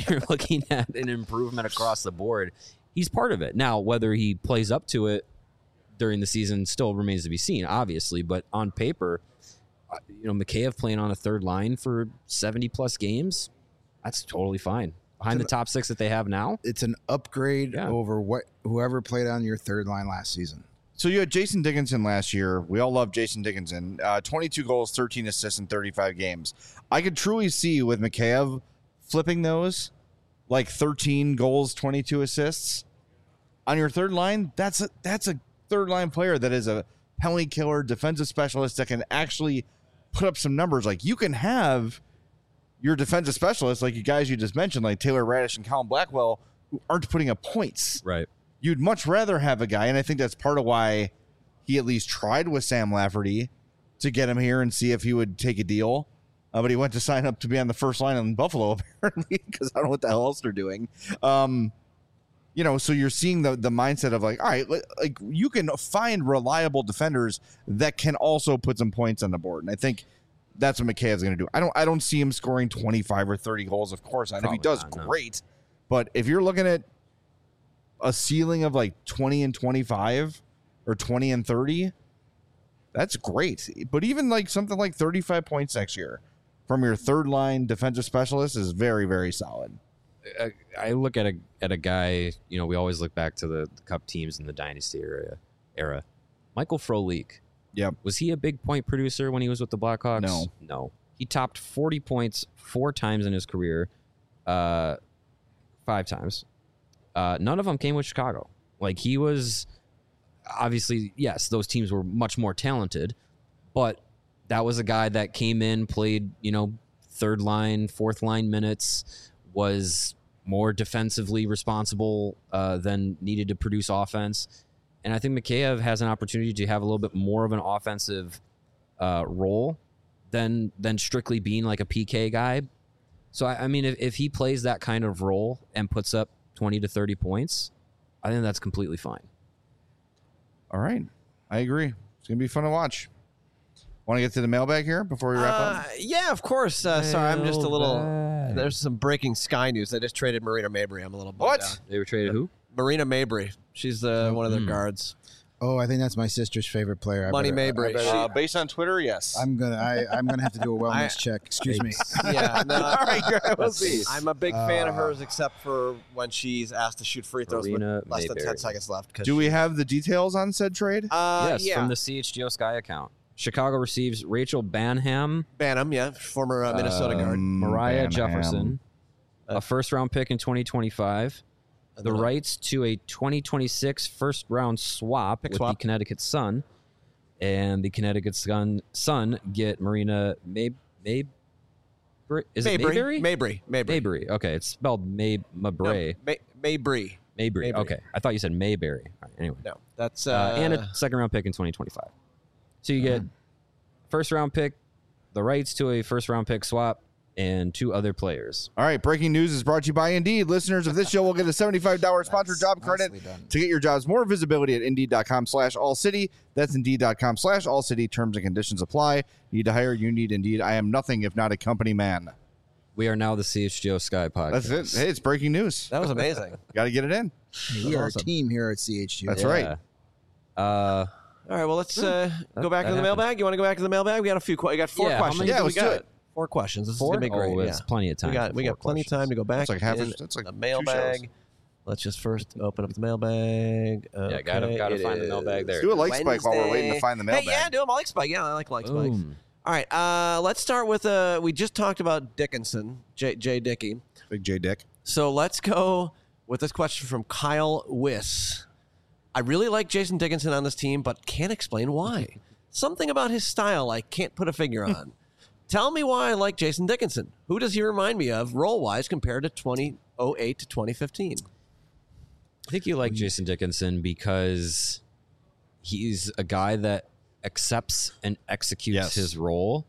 an improvement across the board, he's part of it. Now, whether he plays up to it during the season still remains to be seen, obviously. But on paper, Mikheyev playing on a third line for 70 plus games, that's totally fine. Behind the top 6 that they have now, It's an upgrade Yeah. over whoever played on your third line last season. So you had Jason Dickinson last year. We all love Jason Dickinson. 22 goals, 13 assists in 35 games. I could truly see with Mikheyev flipping those, like 13 goals, 22 assists on your third line. That's a third line player that is a penalty killer, defensive specialist that can actually put up some numbers. Like you can have your defensive specialists, like you guys you just mentioned, like Taylor Radish and Colin Blackwell, who aren't putting up points. right? You'd much rather have a guy, and I think that's part of why he at least tried with Sam Lafferty to get him here and see if he would take a deal. But he went to sign up to be on the first line in Buffalo, apparently, because I don't know what the hell else they're doing. So you're seeing the mindset of like, all right, like you can find reliable defenders that can also put some points on the board. And I think that's what Mikheyev's going to do. I don't see him scoring 25 or 30 goals, of course. And if he does, Probably not, no. great. But if you're looking at a ceiling of like 20 and 25 or 20 and 30, that's great. But even like something like 35 points next year from your third line defensive specialist is very, very solid. I look at a guy. We always look back to the Cup teams in the Dynasty era. Michael Frolik. Yep. Was he a big point producer when he was with the Blackhawks? No. He topped 40 points 4 times in his career, 5 times. None of them came with Chicago. Like he was obviously, yes, those teams were much more talented, but that was a guy that came in, played, third line, fourth line minutes, was more defensively responsible than needed to produce offense. And I think Mikheyev has an opportunity to have a little bit more of an offensive role than strictly being like a PK guy. So, I mean, if he plays that kind of role and puts up 20 to 30 points, I think that's completely fine. All right. I agree. It's going to be fun to watch. Want to get to the mailbag here before we wrap up? Yeah, of course. Sorry, I'm just a little. There's some breaking Sky news. They just traded Marina Mabry. I'm a little bummed out. They were traded who? Marina Mabry. She's one of their guards. Oh, I think that's my sister's favorite player. Money Mabry. Based on Twitter, yes. I'm gonna have to do a wellness check. Excuse me. Yeah. No, All right, we'll see. I'm a big fan of hers, except for when she's asked to shoot free throws with Marina less than Mayberry. 10 seconds left. Do we have the details on said trade? Yes, yeah. from the CHGO Sky account. Chicago receives Rachel Banham, Banham, yeah, former Minnesota guard. Mariah Banham. Jefferson, a first-round pick in 2025, the rights to a 2026 first-round swap with the Connecticut Sun, and the Connecticut Sun get Marina Is it Mayberry? Mabry. Mayberry. Okay, it's spelled Mabray. No, Mabry. Mabry. Okay, I thought you said Mayberry. All right, anyway, No, that's and a second-round pick in 2025. So you get first-round pick, the rights to a first-round pick swap, and 2 other players. All right, breaking news is brought to you by Indeed. Listeners of this show will get a $75 sponsored job credit to get your jobs more visibility at Indeed.com/AllCity. That's Indeed.com/AllCity. Terms and conditions apply. Need to hire? You need Indeed. I am nothing if not a company man. We are now the CHGO Sky podcast. That's it. Hey, it's breaking news. that was amazing. Got to get it in. We are awesome. a team here at CHU. That's Yeah. right. All right, well, let's go back that to the happened. mailbag. You want to go back to the mailbag? We got a few. We got 4 Yeah, how questions. many do we got? 4 questions. This 4? is gonna be great. Oh, it's yeah. plenty of time. We got plenty of time to go back. That's like half. in That's like the 2 mailbag. shows. Let's just first open up the mailbag. Yeah, gotta Okay, find the it mailbag there. is Do a like spike while we're waiting to Wednesday. find the Hey, mailbag. yeah, do a like spike. Yeah, I like spikes. Boom. All right, let's start with we just talked about Dickinson, Jay Dickey. Big J Dick. So let's go with this question from Kyle Wiss. I really like Jason Dickinson on this team, but can't explain why. Something about his style I can't put a figure on. Tell me why I like Jason Dickinson. Who does he remind me of role-wise compared to 2008 to 2015? I think you like Jason Dickinson because he's a guy that accepts and executes Yes. his role.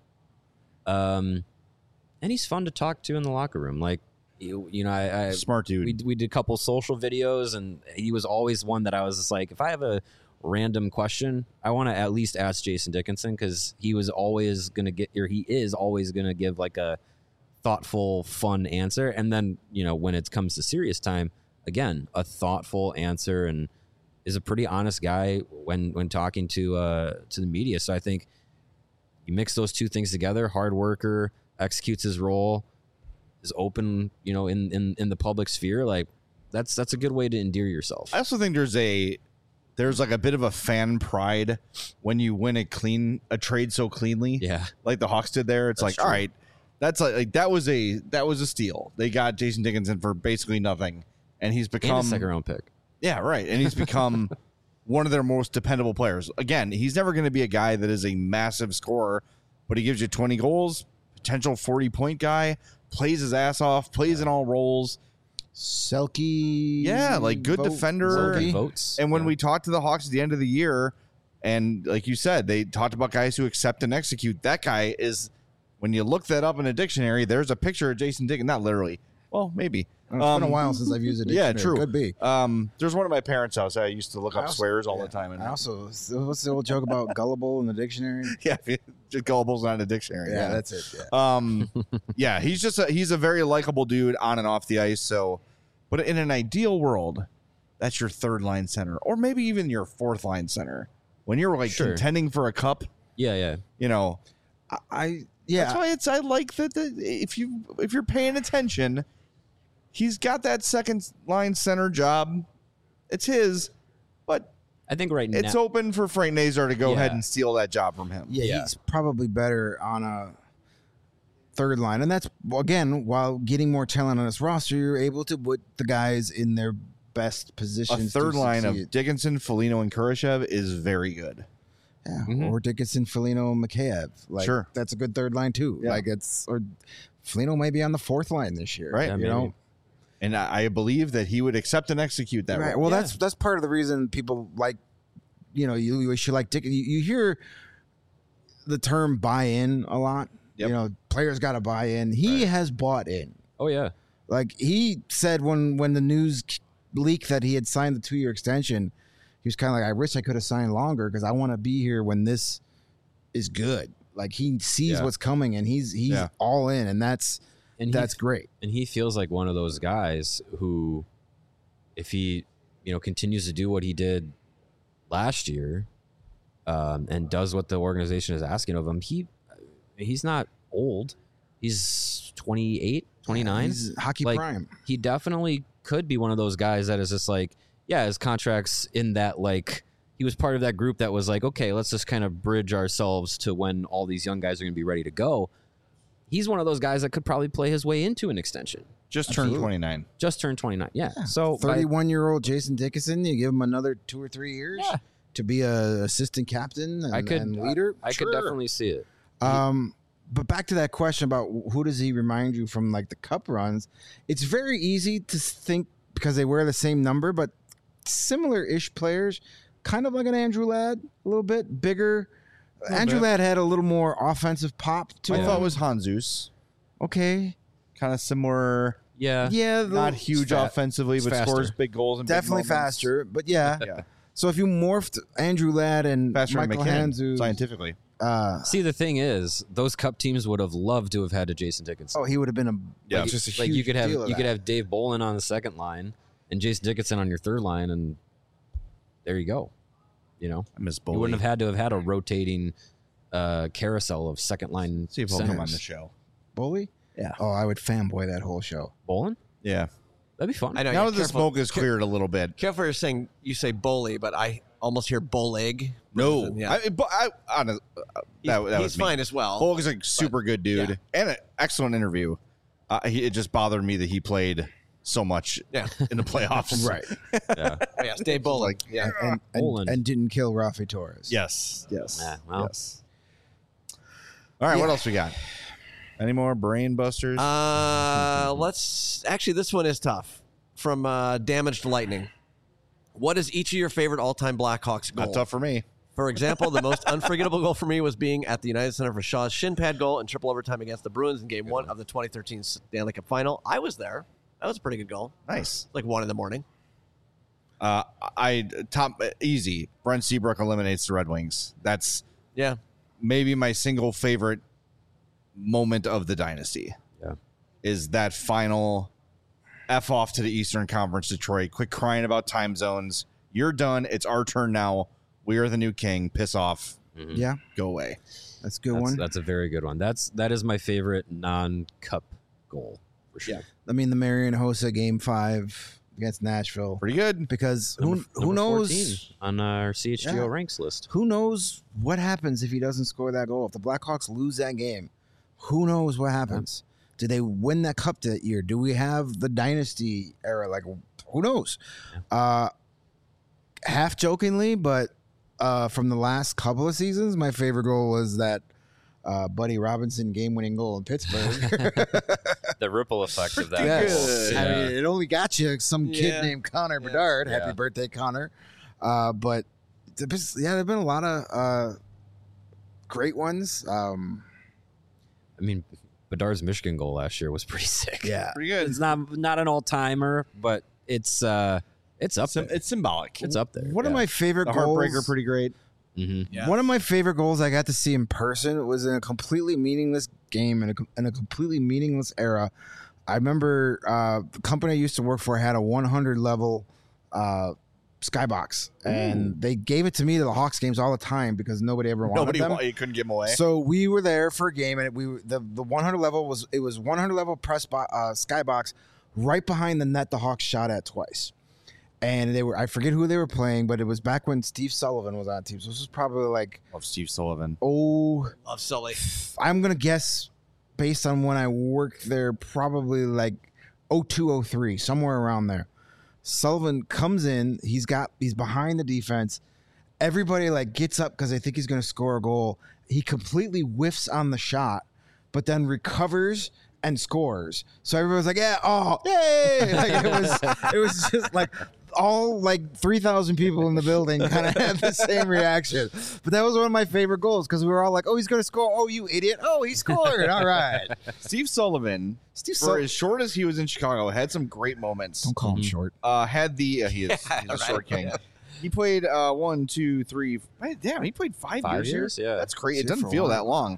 And he's fun to talk to in the locker room. Like, you know, I Smart dude. we did a couple social videos, and he was always one that I was just like, if I have a random question, I want to at least ask Jason Dickinson, because he was always going to he is always going to give like a thoughtful, fun answer. And then, you know, when it comes to serious time, again, a thoughtful answer, and is a pretty honest guy when talking to the media. So I think you mix those 2 things together: hard worker, executes his role, is open, you know, in the public sphere. Like that's a good way to endear yourself. I also think there's like a bit of a fan pride when you win a trade so cleanly. Yeah. Like the Hawks did there. It's That's like, true. all right, that's like that was a steal. They got Jason Dickinson for basically nothing, and he's And become a second round pick. Yeah, right. And he's become one of their most dependable players. Again, he's never going to be a guy that is a massive scorer, but he gives you 20 goals, potential 40-point guy, plays his ass off, plays in all roles. Selke. Yeah, like good defender. Selke. Votes. And when Yeah. we talked to the Hawks at the end of the year, and like you said, they talked about guys who accept and execute. That guy is, when you look that up in a dictionary, there's a picture of Jason Dickinson. Not literally. Well, maybe. It's been a while since I've used a dictionary. Yeah, true. Could be. There's one at my parents' house. I used to look up I also- swears all yeah. the time. And I also, what's the old joke about gullible in the dictionary? yeah, just gullible's not in a dictionary. Yeah, that's it. Yeah. Yeah, he's a very likable dude on and off the ice. So, but in an ideal world, that's your 3rd line center, or maybe even your 4th line center. When you're like Sure. contending for a cup, Yeah. you know, Yeah. that's why I like that. If you're paying attention, he's got that 2nd line center job. It's his, but I think right it's now. open for Frank Nazar to go Yeah. ahead and steal that job from him. Yeah, Yeah. he's probably better on a 3rd line. And that's, again, while getting more talent on his roster, you're able to put the guys in their best A positions. to 3rd line of succeed. Dickinson, Foligno, and Kurashev is very good. Yeah, Mhm. or Dickinson, Foligno, Mikheyev. Like, Sure. that's a good 3rd line, too. Yeah. Like, or Foligno may be on the 4th line this year. Right. Yeah, You know? maybe. And I believe that he would accept and execute that. Right. role. Well, Yeah. that's part of the reason people like, you should like Dick. You hear the term buy in a lot. Yep. You know, players got to buy in. He has bought in. Oh yeah. Like he said when the news leaked that he had signed the 2-year extension, he was kind of like, I wish I could have signed longer because I want to be here when this is good. Like he sees Yeah. what's coming and he's Yeah. all in, and that's And great. And he feels like one of those guys who, if he, you know, continues to do what he did last year, and does what the organization is asking of him, he's not old. He's 28, 29. He's hockey Like, prime. He definitely could be one of those guys that is just like, yeah, his contract's in that, like, he was part of that group that was like, okay, let's just kind of bridge ourselves to when all these young guys are going to be ready to go. He's one of those guys that could probably play his way into an extension. Just turned Absolutely. 29. Just turned 29. Yeah. So by- 31-year-old Jason Dickinson, you give him another 2 or 3 years Yeah. to be a assistant captain and, I could and leader. I could Sure. definitely see it. But back to that question about who does he remind you from like the cup runs? It's very easy to think because they wear the same number, but similar-ish players, kind of like an Andrew Ladd, a little bit bigger. Andrew Ladd had a little more offensive pop to I him. thought it was Jesus. Okay. Kind of similar. Yeah. Yeah, Not huge offensively, but faster. scores big goals and definitely big moments. faster. But yeah. Yeah, So if you morphed Andrew Ladd and faster than Michael McKinnon, Handzus, scientifically. See, the thing is, those cup teams would have loved to have had a Jason Dickinson. oh, he would have been Yeah. just a Like huge you could have deal of you could that. have Dave Bolin on the second line and Jason Dickinson on your third line, and there you go. You know, I miss you Bully. wouldn't have had a rotating carousel of second line. See if he'll come on centers. the show. Bully. Yeah. Oh, I would fanboy that whole show. Bolin? Yeah. That'd be fun. I know. Now yeah, that the careful. smoke is cleared a little bit. Careful, you're saying you say bully, but I almost hear bowleg. No. Yeah. That He's was me. fine as well. Bullock is a super good dude yeah. and an excellent interview. It just bothered me that he played so much Yeah. in the playoffs. Right. yeah. Oh, yes, Dave Bowling. Yeah. Bolin. And didn't kill Rafi Torres. Yes. Yes. Yeah, well. Yes. All right. What else we got? Any more brain busters? Let's actually. This one is tough. From Damaged Lightning. What is each of your favorite all-time Blackhawks goal? Not tough for me. For example, the most unforgettable goal for me was being at the United Center for Shaw's shin pad goal in triple overtime against the Bruins in Game 1 of the 2013 Stanley Cup Final. I was there. That was a pretty good goal. Nice. Like 1 in the morning. Easy. Brent Seabrook eliminates the Red Wings. That's Yeah. maybe my single favorite moment of the dynasty. Yeah. Is that final F off to the Eastern Conference, Detroit. Quit crying about time zones. You're done. It's our turn now. We are the new king. Piss off. Yeah, Go away. that's a good one. That's a very good one. That is my favorite non-cup goal for sure. Yeah. I mean, the Marion Hossa Game 5 against Nashville. Pretty good. Because who Number knows 14 on our CHGO Yeah. ranks list. who knows what happens if he doesn't score that goal. If the Blackhawks lose that game, who knows what happens? Do they win that cup that year? Do we have the dynasty era? Like, who knows? Half jokingly, but from the last couple of seasons, my favorite goal was that Buddy Robinson game-winning goal in Pittsburgh. The ripple effect of that Yes. goal. I Yeah. mean, it only got you some kid Yeah. named Connor Bedard. Yeah. Happy birthday, Connor. But there have been a lot of great ones. I mean, Bedard's Michigan goal last year was pretty sick. Yeah. Pretty good. It's not an all-timer, but it's up there. It's symbolic. It's up there. One of my favorite The goals. Heartbreaker, pretty great. Mm-hmm. One of my favorite goals I got to see in person was in a completely meaningless game in a completely meaningless era. I remember the company I used to work for had a 100 level skybox, and they gave it to me to the Hawks games all the time because nobody ever wanted them. You couldn't give them away. So we were there for a game, and the 100 level was 100 level skybox right behind the net the Hawks shot at twice. And I forget who they were playing, but it was back when Steve Sullivan was on the team. So this was probably like, Love Steve Sullivan. Love Sully. I'm going to guess based on when I worked there, probably like 02, 03, somewhere around there. Sullivan comes in, he's behind the defense. Everybody like gets up because they think he's going to score a goal. He completely whiffs on the shot, but then recovers and scores. So everyone's like, yeah, oh, yay! Like it was just like all like 3,000 people in the building kind of had the same reaction. But that was one of my favorite goals because we were all like, oh, he's going to score. Oh, you idiot. Oh, he scored. All right. Steve Sullivan, for as short as he was in Chicago, had some great moments. Don't call him short. Had the he's a short king. He played 1, 2, 3. Damn, he played 5 5 years. years? Here? Yeah. That's crazy. It That's it doesn't for a feel while. that long.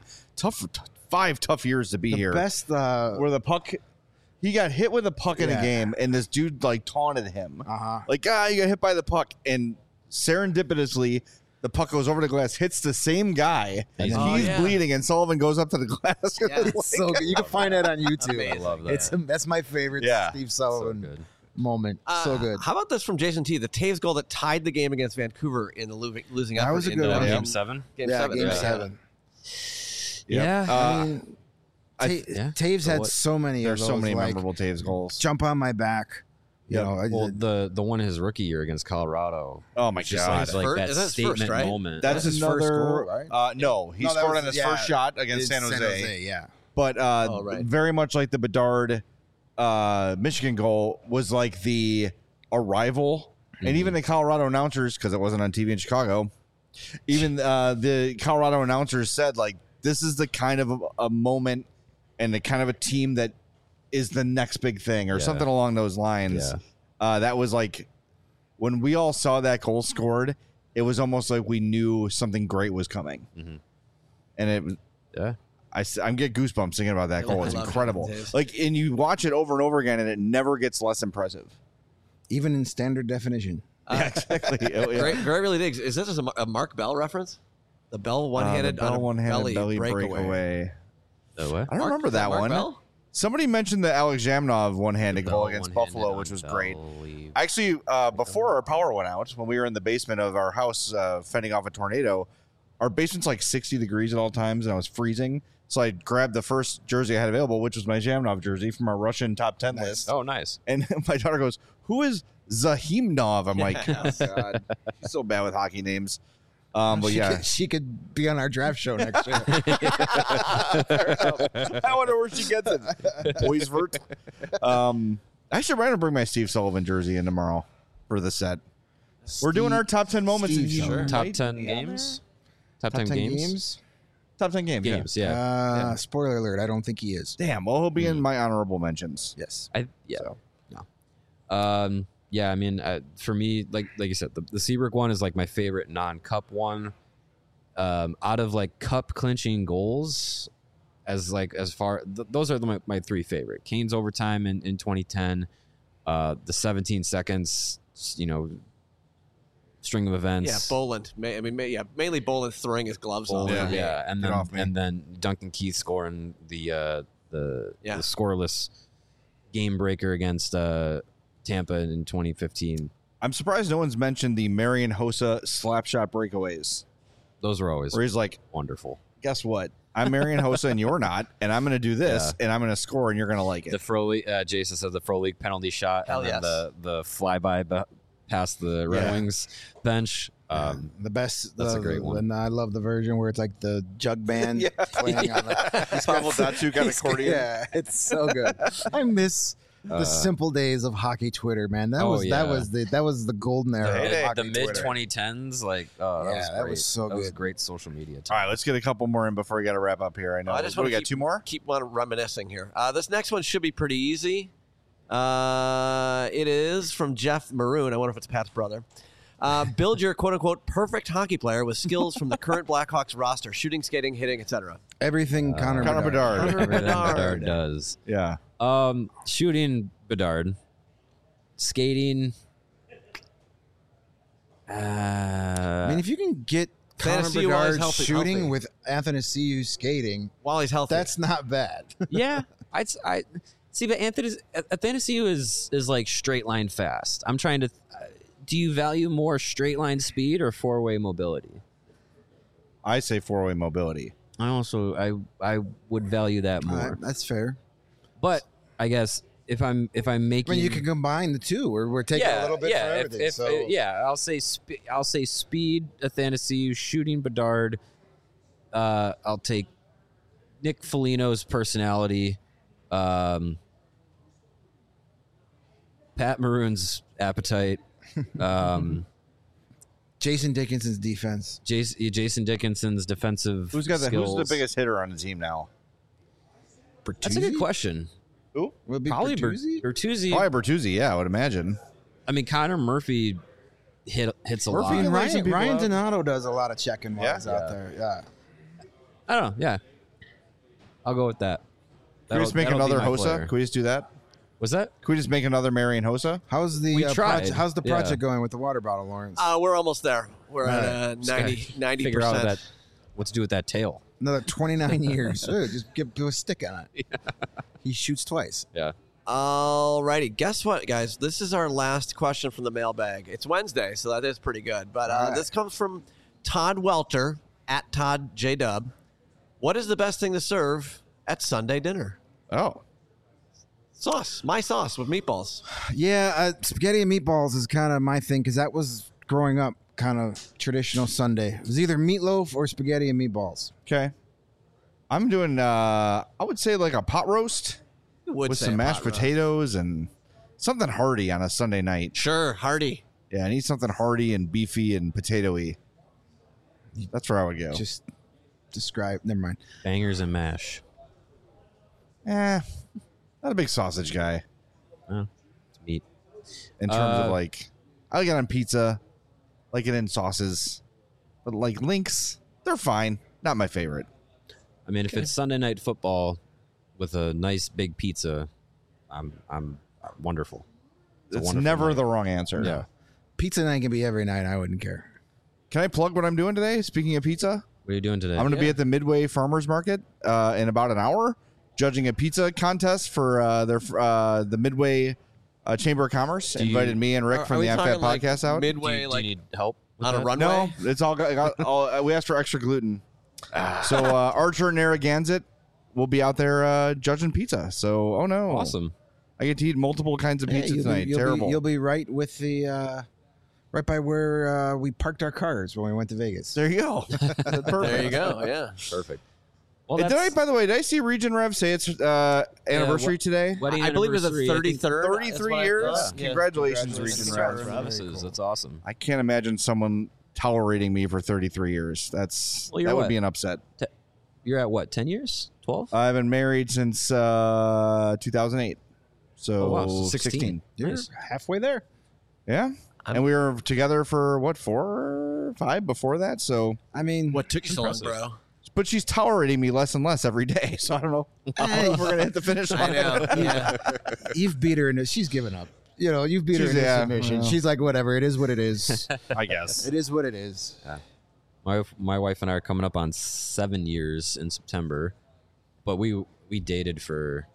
5 tough years to be The here. best. Where the puck, he got hit with a puck in a Yeah. game, and this dude like taunted him, Uh-huh. like you got hit by the puck, and serendipitously. The puck goes over the glass, hits the same guy, and Oh, he's yeah. bleeding, and Sullivan goes up to the glass. Yeah. It's So good. You can find that on YouTube. I love that. That's my favorite Yeah. Steve so Sullivan good. moment. So good. How about this from Jason T? The Taves goal that tied the game against Vancouver in the losing That effort. was a in good one. Game, Yeah. Game 7? Game Yeah, 7. game Yeah. 7. Yeah. I mean, I- yeah. Taves So had what- so many of There's those. so many like, memorable Taves goals. jump on my back, You know, Well, the one his rookie year against Colorado. Oh my Just God. like First- that is that his statement first, right? moment. That's his another. first goal, right? No, he No, that scored was- on his yeah, first shot against it's San Jose. yeah. But right. very much like the Bedard Michigan goal was like the arrival, and even the Colorado announcers, because it wasn't on TV in Chicago, even the Colorado announcers said like this is the kind of a moment and the kind of a team that is the next big thing or Yeah. something along those lines. That was like when we all saw that goal scored, it was almost like we knew something great was coming, and it was. Yeah. I'm get goosebumps thinking about that goal. I It's love incredible. it. Like, and you watch it over and over again, and it never gets less impressive. Even in standard definition. Yeah, exactly. Oh, yeah. Great really digs. Is this a Mark Bell reference? The Bell one-handed, The Bell on a one-handed belly breakaway. breakaway. The what? I don't remember that Mark one. Bell? Somebody mentioned the Alex Jamnov one-handed goal Bell against one-handed Buffalo, which was on great. belly. Actually, before our power went out, when we were in the basement of our house fending off a tornado, our basement's like 60 degrees at all times, and I was freezing. So I grabbed the first jersey I had available, which was my Jamnov jersey from our Russian top 10 list. Oh, nice. And my daughter goes, "Who is Zahimnov?" I'm like, "Oh, God, she's so bad with hockey names." But yeah, She could be on our draft show next year. I wonder where she gets it. Boisvert. I should try to bring my Steve Sullivan jersey in tomorrow for the set. We're doing our top 10 moments. Steve in Sullivan. Top right? 10 Yeah. games? Top, Top 10 games? Top 10 games. yeah. Games, yeah. Spoiler alert, I don't think he is. Damn. Well, he'll be in my honorable mentions. Yes. Yeah. So. Yeah, I mean, for me, like you said, the Seabrook one is like my favorite non-cup one. Out of like cup clinching goals, those are my three favorite. Kane's overtime in 2010, the 17 seconds, string of events. Yeah, Boland. Mainly Boland throwing his gloves on. Boland, Yeah. yeah, and Get then off me. and then Duncan Keith scoring the scoreless game breaker against Tampa in 2015. I'm surprised no one's mentioned the Marian Hossa slap shot breakaways, Those were always where he's like, wonderful. "Guess what? I'm Marian Hossa and you're not, and I'm going to do this, and I'm going to score, and you're going to like it." The Frolik, Jason said the Frolik penalty shot, Hell and then yes. the flyby past the Red Yeah. Wings bench. The best. That's a great one. And I love the version where it's like the jug band playing on the Pavel Datsyuk got accordion. Yeah, it's so good. I miss the simple days of hockey Twitter, man. That was the golden era. heyday. Of hockey The mid Twitter. 2010s, that was great. so That was good. great social media. All right, let's get a couple more in before we got to wrap up here. I know. I just What, want we to got two more. Keep on reminiscing here. This next one should be pretty easy. It is from Jeff Maroon. I wonder if it's Pat's brother. Build your quote-unquote perfect hockey player with skills from the current Blackhawks roster: shooting, skating, hitting, etc. Everything Connor Bedard. Everything Bedard. Bedard does. Yeah. Shooting Bedard, skating. I mean, if you can get Connor Fantasy wise, Bedard healthy. shooting with Anthony Ciu skating, While he's healthy. that's not bad. Yeah, I see, but Athanasiou is like straight line fast. I'm trying to. Do you value more straight line speed or 4-way mobility? I say 4-way mobility. I would value that more. That's fair. But I guess if I'm I making, mean, you can combine the two. We're taking a little bit for everything. I'll say speed, Athanasiou, shooting Bedard. I'll take Nick Foligno's personality, Pat Maroon's appetite, Jason Dickinson's defense. Jason Dickinson's defensive. Who's the skills. biggest hitter on the team now? That's a good question. Who? Would it be Probably Bertuzzi? Bertuzzi. Probably Bertuzzi. Yeah, I would imagine. I mean, Connor Murphy hits a Murphy lot. can And lay some Ryan people out. Donato does a lot of checking while Yeah. he's out there. Yeah. I don't know. Yeah, I'll go with that. Can we just make That'll be another my Hossa? player. Can we just do that? Was that? Can we just make another Marian Hossa? How's the We tried. how's the Yeah. project going with the water bottle, Lawrence? we're almost there. We're at Just gotta 90%. Figure out that what to do with that tail. Another 29 years. Just do a stick on it. He shoots twice. Yeah. Alrighty, guess what, guys? This is our last question from the mailbag. It's Wednesday, so that is pretty good. But All right. this comes from Todd Welter at Todd J Dub. What is the best thing to serve at Sunday dinner? Oh, Sauce. My sauce with meatballs. Yeah, spaghetti and meatballs is kind of my thing because that was growing up kind of traditional Sunday. It was either meatloaf or spaghetti and meatballs. Okay. I'm doing, I would say like a pot roast Would with say some a mashed pot roast. potatoes and something hearty on a Sunday night. Sure, hearty. Yeah, I need something hearty and beefy and potato-y. That's where I would go. Just describe. Never mind. Bangers and mash. Not a big sausage guy Oh, it's meat. in terms of like, I like it on pizza, like it in sauces, but like links, they're fine. Not my favorite. I mean, if it's Sunday night football with a nice big pizza, I'm wonderful. a It's wonderful never night. the wrong answer. Yeah. Pizza night can be every night. I wouldn't care. Can I plug what I'm doing today? Speaking of pizza, What are you doing today? I'm going to be at the Midway Farmers Market in about an hour, judging a pizza contest for the Midway Chamber of Commerce. you- Invited me and Rick Are from we the talking AFAT like podcast out. midway, do like you need help with on a that? runway? No, it's all we asked for extra gluten. So Archer Narragansett will be out there judging pizza. So, oh no. Awesome. I get to eat multiple kinds of pizza tonight. Terrible. You'll be right with the right by where we parked our cars when we went to Vegas. There you go. Perfect. There you go. Yeah. Perfect. Well, Did I, by the way, did I see Region Rev say it's anniversary today? wedding I believe it was the anniversary, I think 33rd. 33 years? Yeah. Congratulations, Congratulations. Region Rev. Congratulations. That's awesome. I can't imagine someone tolerating me for 33 years. Well, you're that would what? be an upset. You're at what, 10 years? 12? I've been married since 2008. So Oh, wow, so 16. You're Nice. halfway there. Yeah. And we were together for what, 4 or 5 before that? So, I mean, What took you so long, Impressive. bro? but she's tolerating me less and less every day. So I don't know. I don't know if we're gonna hit the finish I line. know. Yeah. you've beat her into. She's given up. You know, you've beat her She's- into yeah, submission. well. She's like, whatever. It is what it is. I guess. It is what it is. My wife and I are coming up on 7 years in September, but we dated for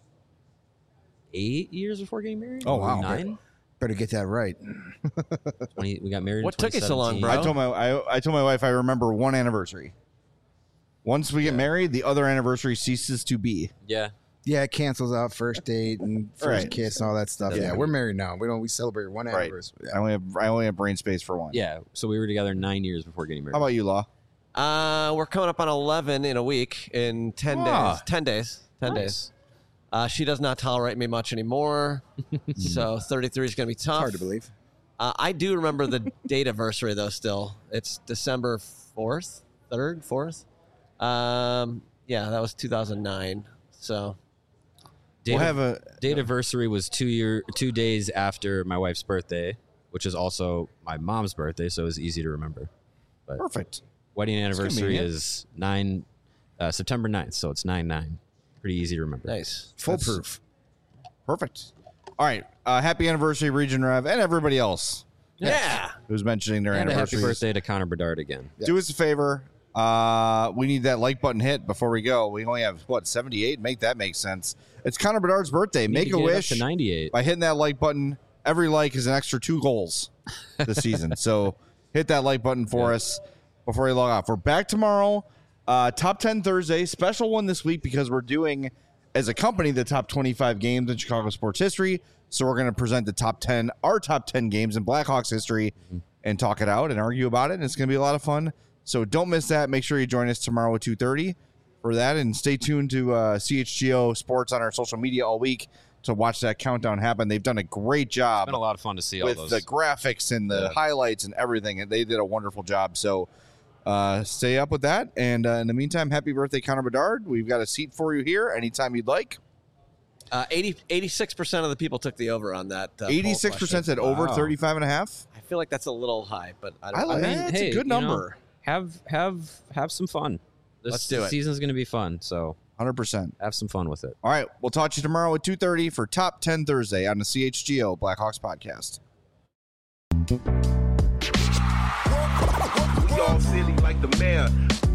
8 years before getting married. Oh, wow. 9. Better get that right. 20. We got married. What in took you so long, 2017. bro? I told my wife I remember one anniversary. Once we get married, the other anniversary ceases to be. Yeah. Yeah, it cancels out first date and first Right. kiss and all that stuff. Yeah. Yeah, we're married now. We celebrate one Right. anniversary. I only have brain space for one. Yeah. So we were together 9 years before getting married. How about you, Law? We're coming up on 11 in a week, in 10 Ah. days. 10 days. 10 days. She does not tolerate me much anymore. So 33 is going to be tough. Hard to believe. I do remember the date anniversary, though, still. It's December 4th, 3rd, 4th. Yeah, that was 2009. So Date We'll of- have a Date anniversary was 2 days after my wife's birthday, which is also my mom's birthday, so it was easy to remember. perfect. Wedding anniversary convenient. is September 9th, so it's 9/9. Pretty easy to remember. nice. Foolproof. Perfect. All right. Happy anniversary, Region Rev, and everybody else Yeah. who's mentioning their And a happy anniversaries. birthday to Connor Bedard again. Do us a favor. We need that like button hit before we go. We only have 78. Make that make sense. It's Connor Bedard's birthday. Need Make to a get it up wish to 98. by hitting that like button. Every like is an extra 2 goals this season. So hit that like button for us before you log off. We're back tomorrow. Top 10 Thursday. Special one this week because we're doing, as a company, the top 25 games in Chicago sports history. So we're going to present our top 10 games in Blackhawks history and talk it out and argue about it. And it's going to be a lot of fun. So don't miss that. Make sure you join us tomorrow at 2:30 for that. And stay tuned to CHGO Sports on our social media all week to watch that countdown happen. They've done a great job It's been a lot of fun to see all with those. the graphics and the highlights and everything. And they did a wonderful job. So stay up with that. And in the meantime, happy birthday, Connor Bedard. We've got a seat for you here anytime you'd like. 86% of the people took the over on that. poll 86% question. said over Wow. 35.5. I feel like that's a little high, but I I don't like know. that. It's hey, a good you know, number. have some fun. This Let's do it. season's going to be fun, so 100%. have some fun with it. All right. We'll talk to you tomorrow at 2:30 for Top 10 Thursday on the CHGO Blackhawks podcast. We all silly like the mayor.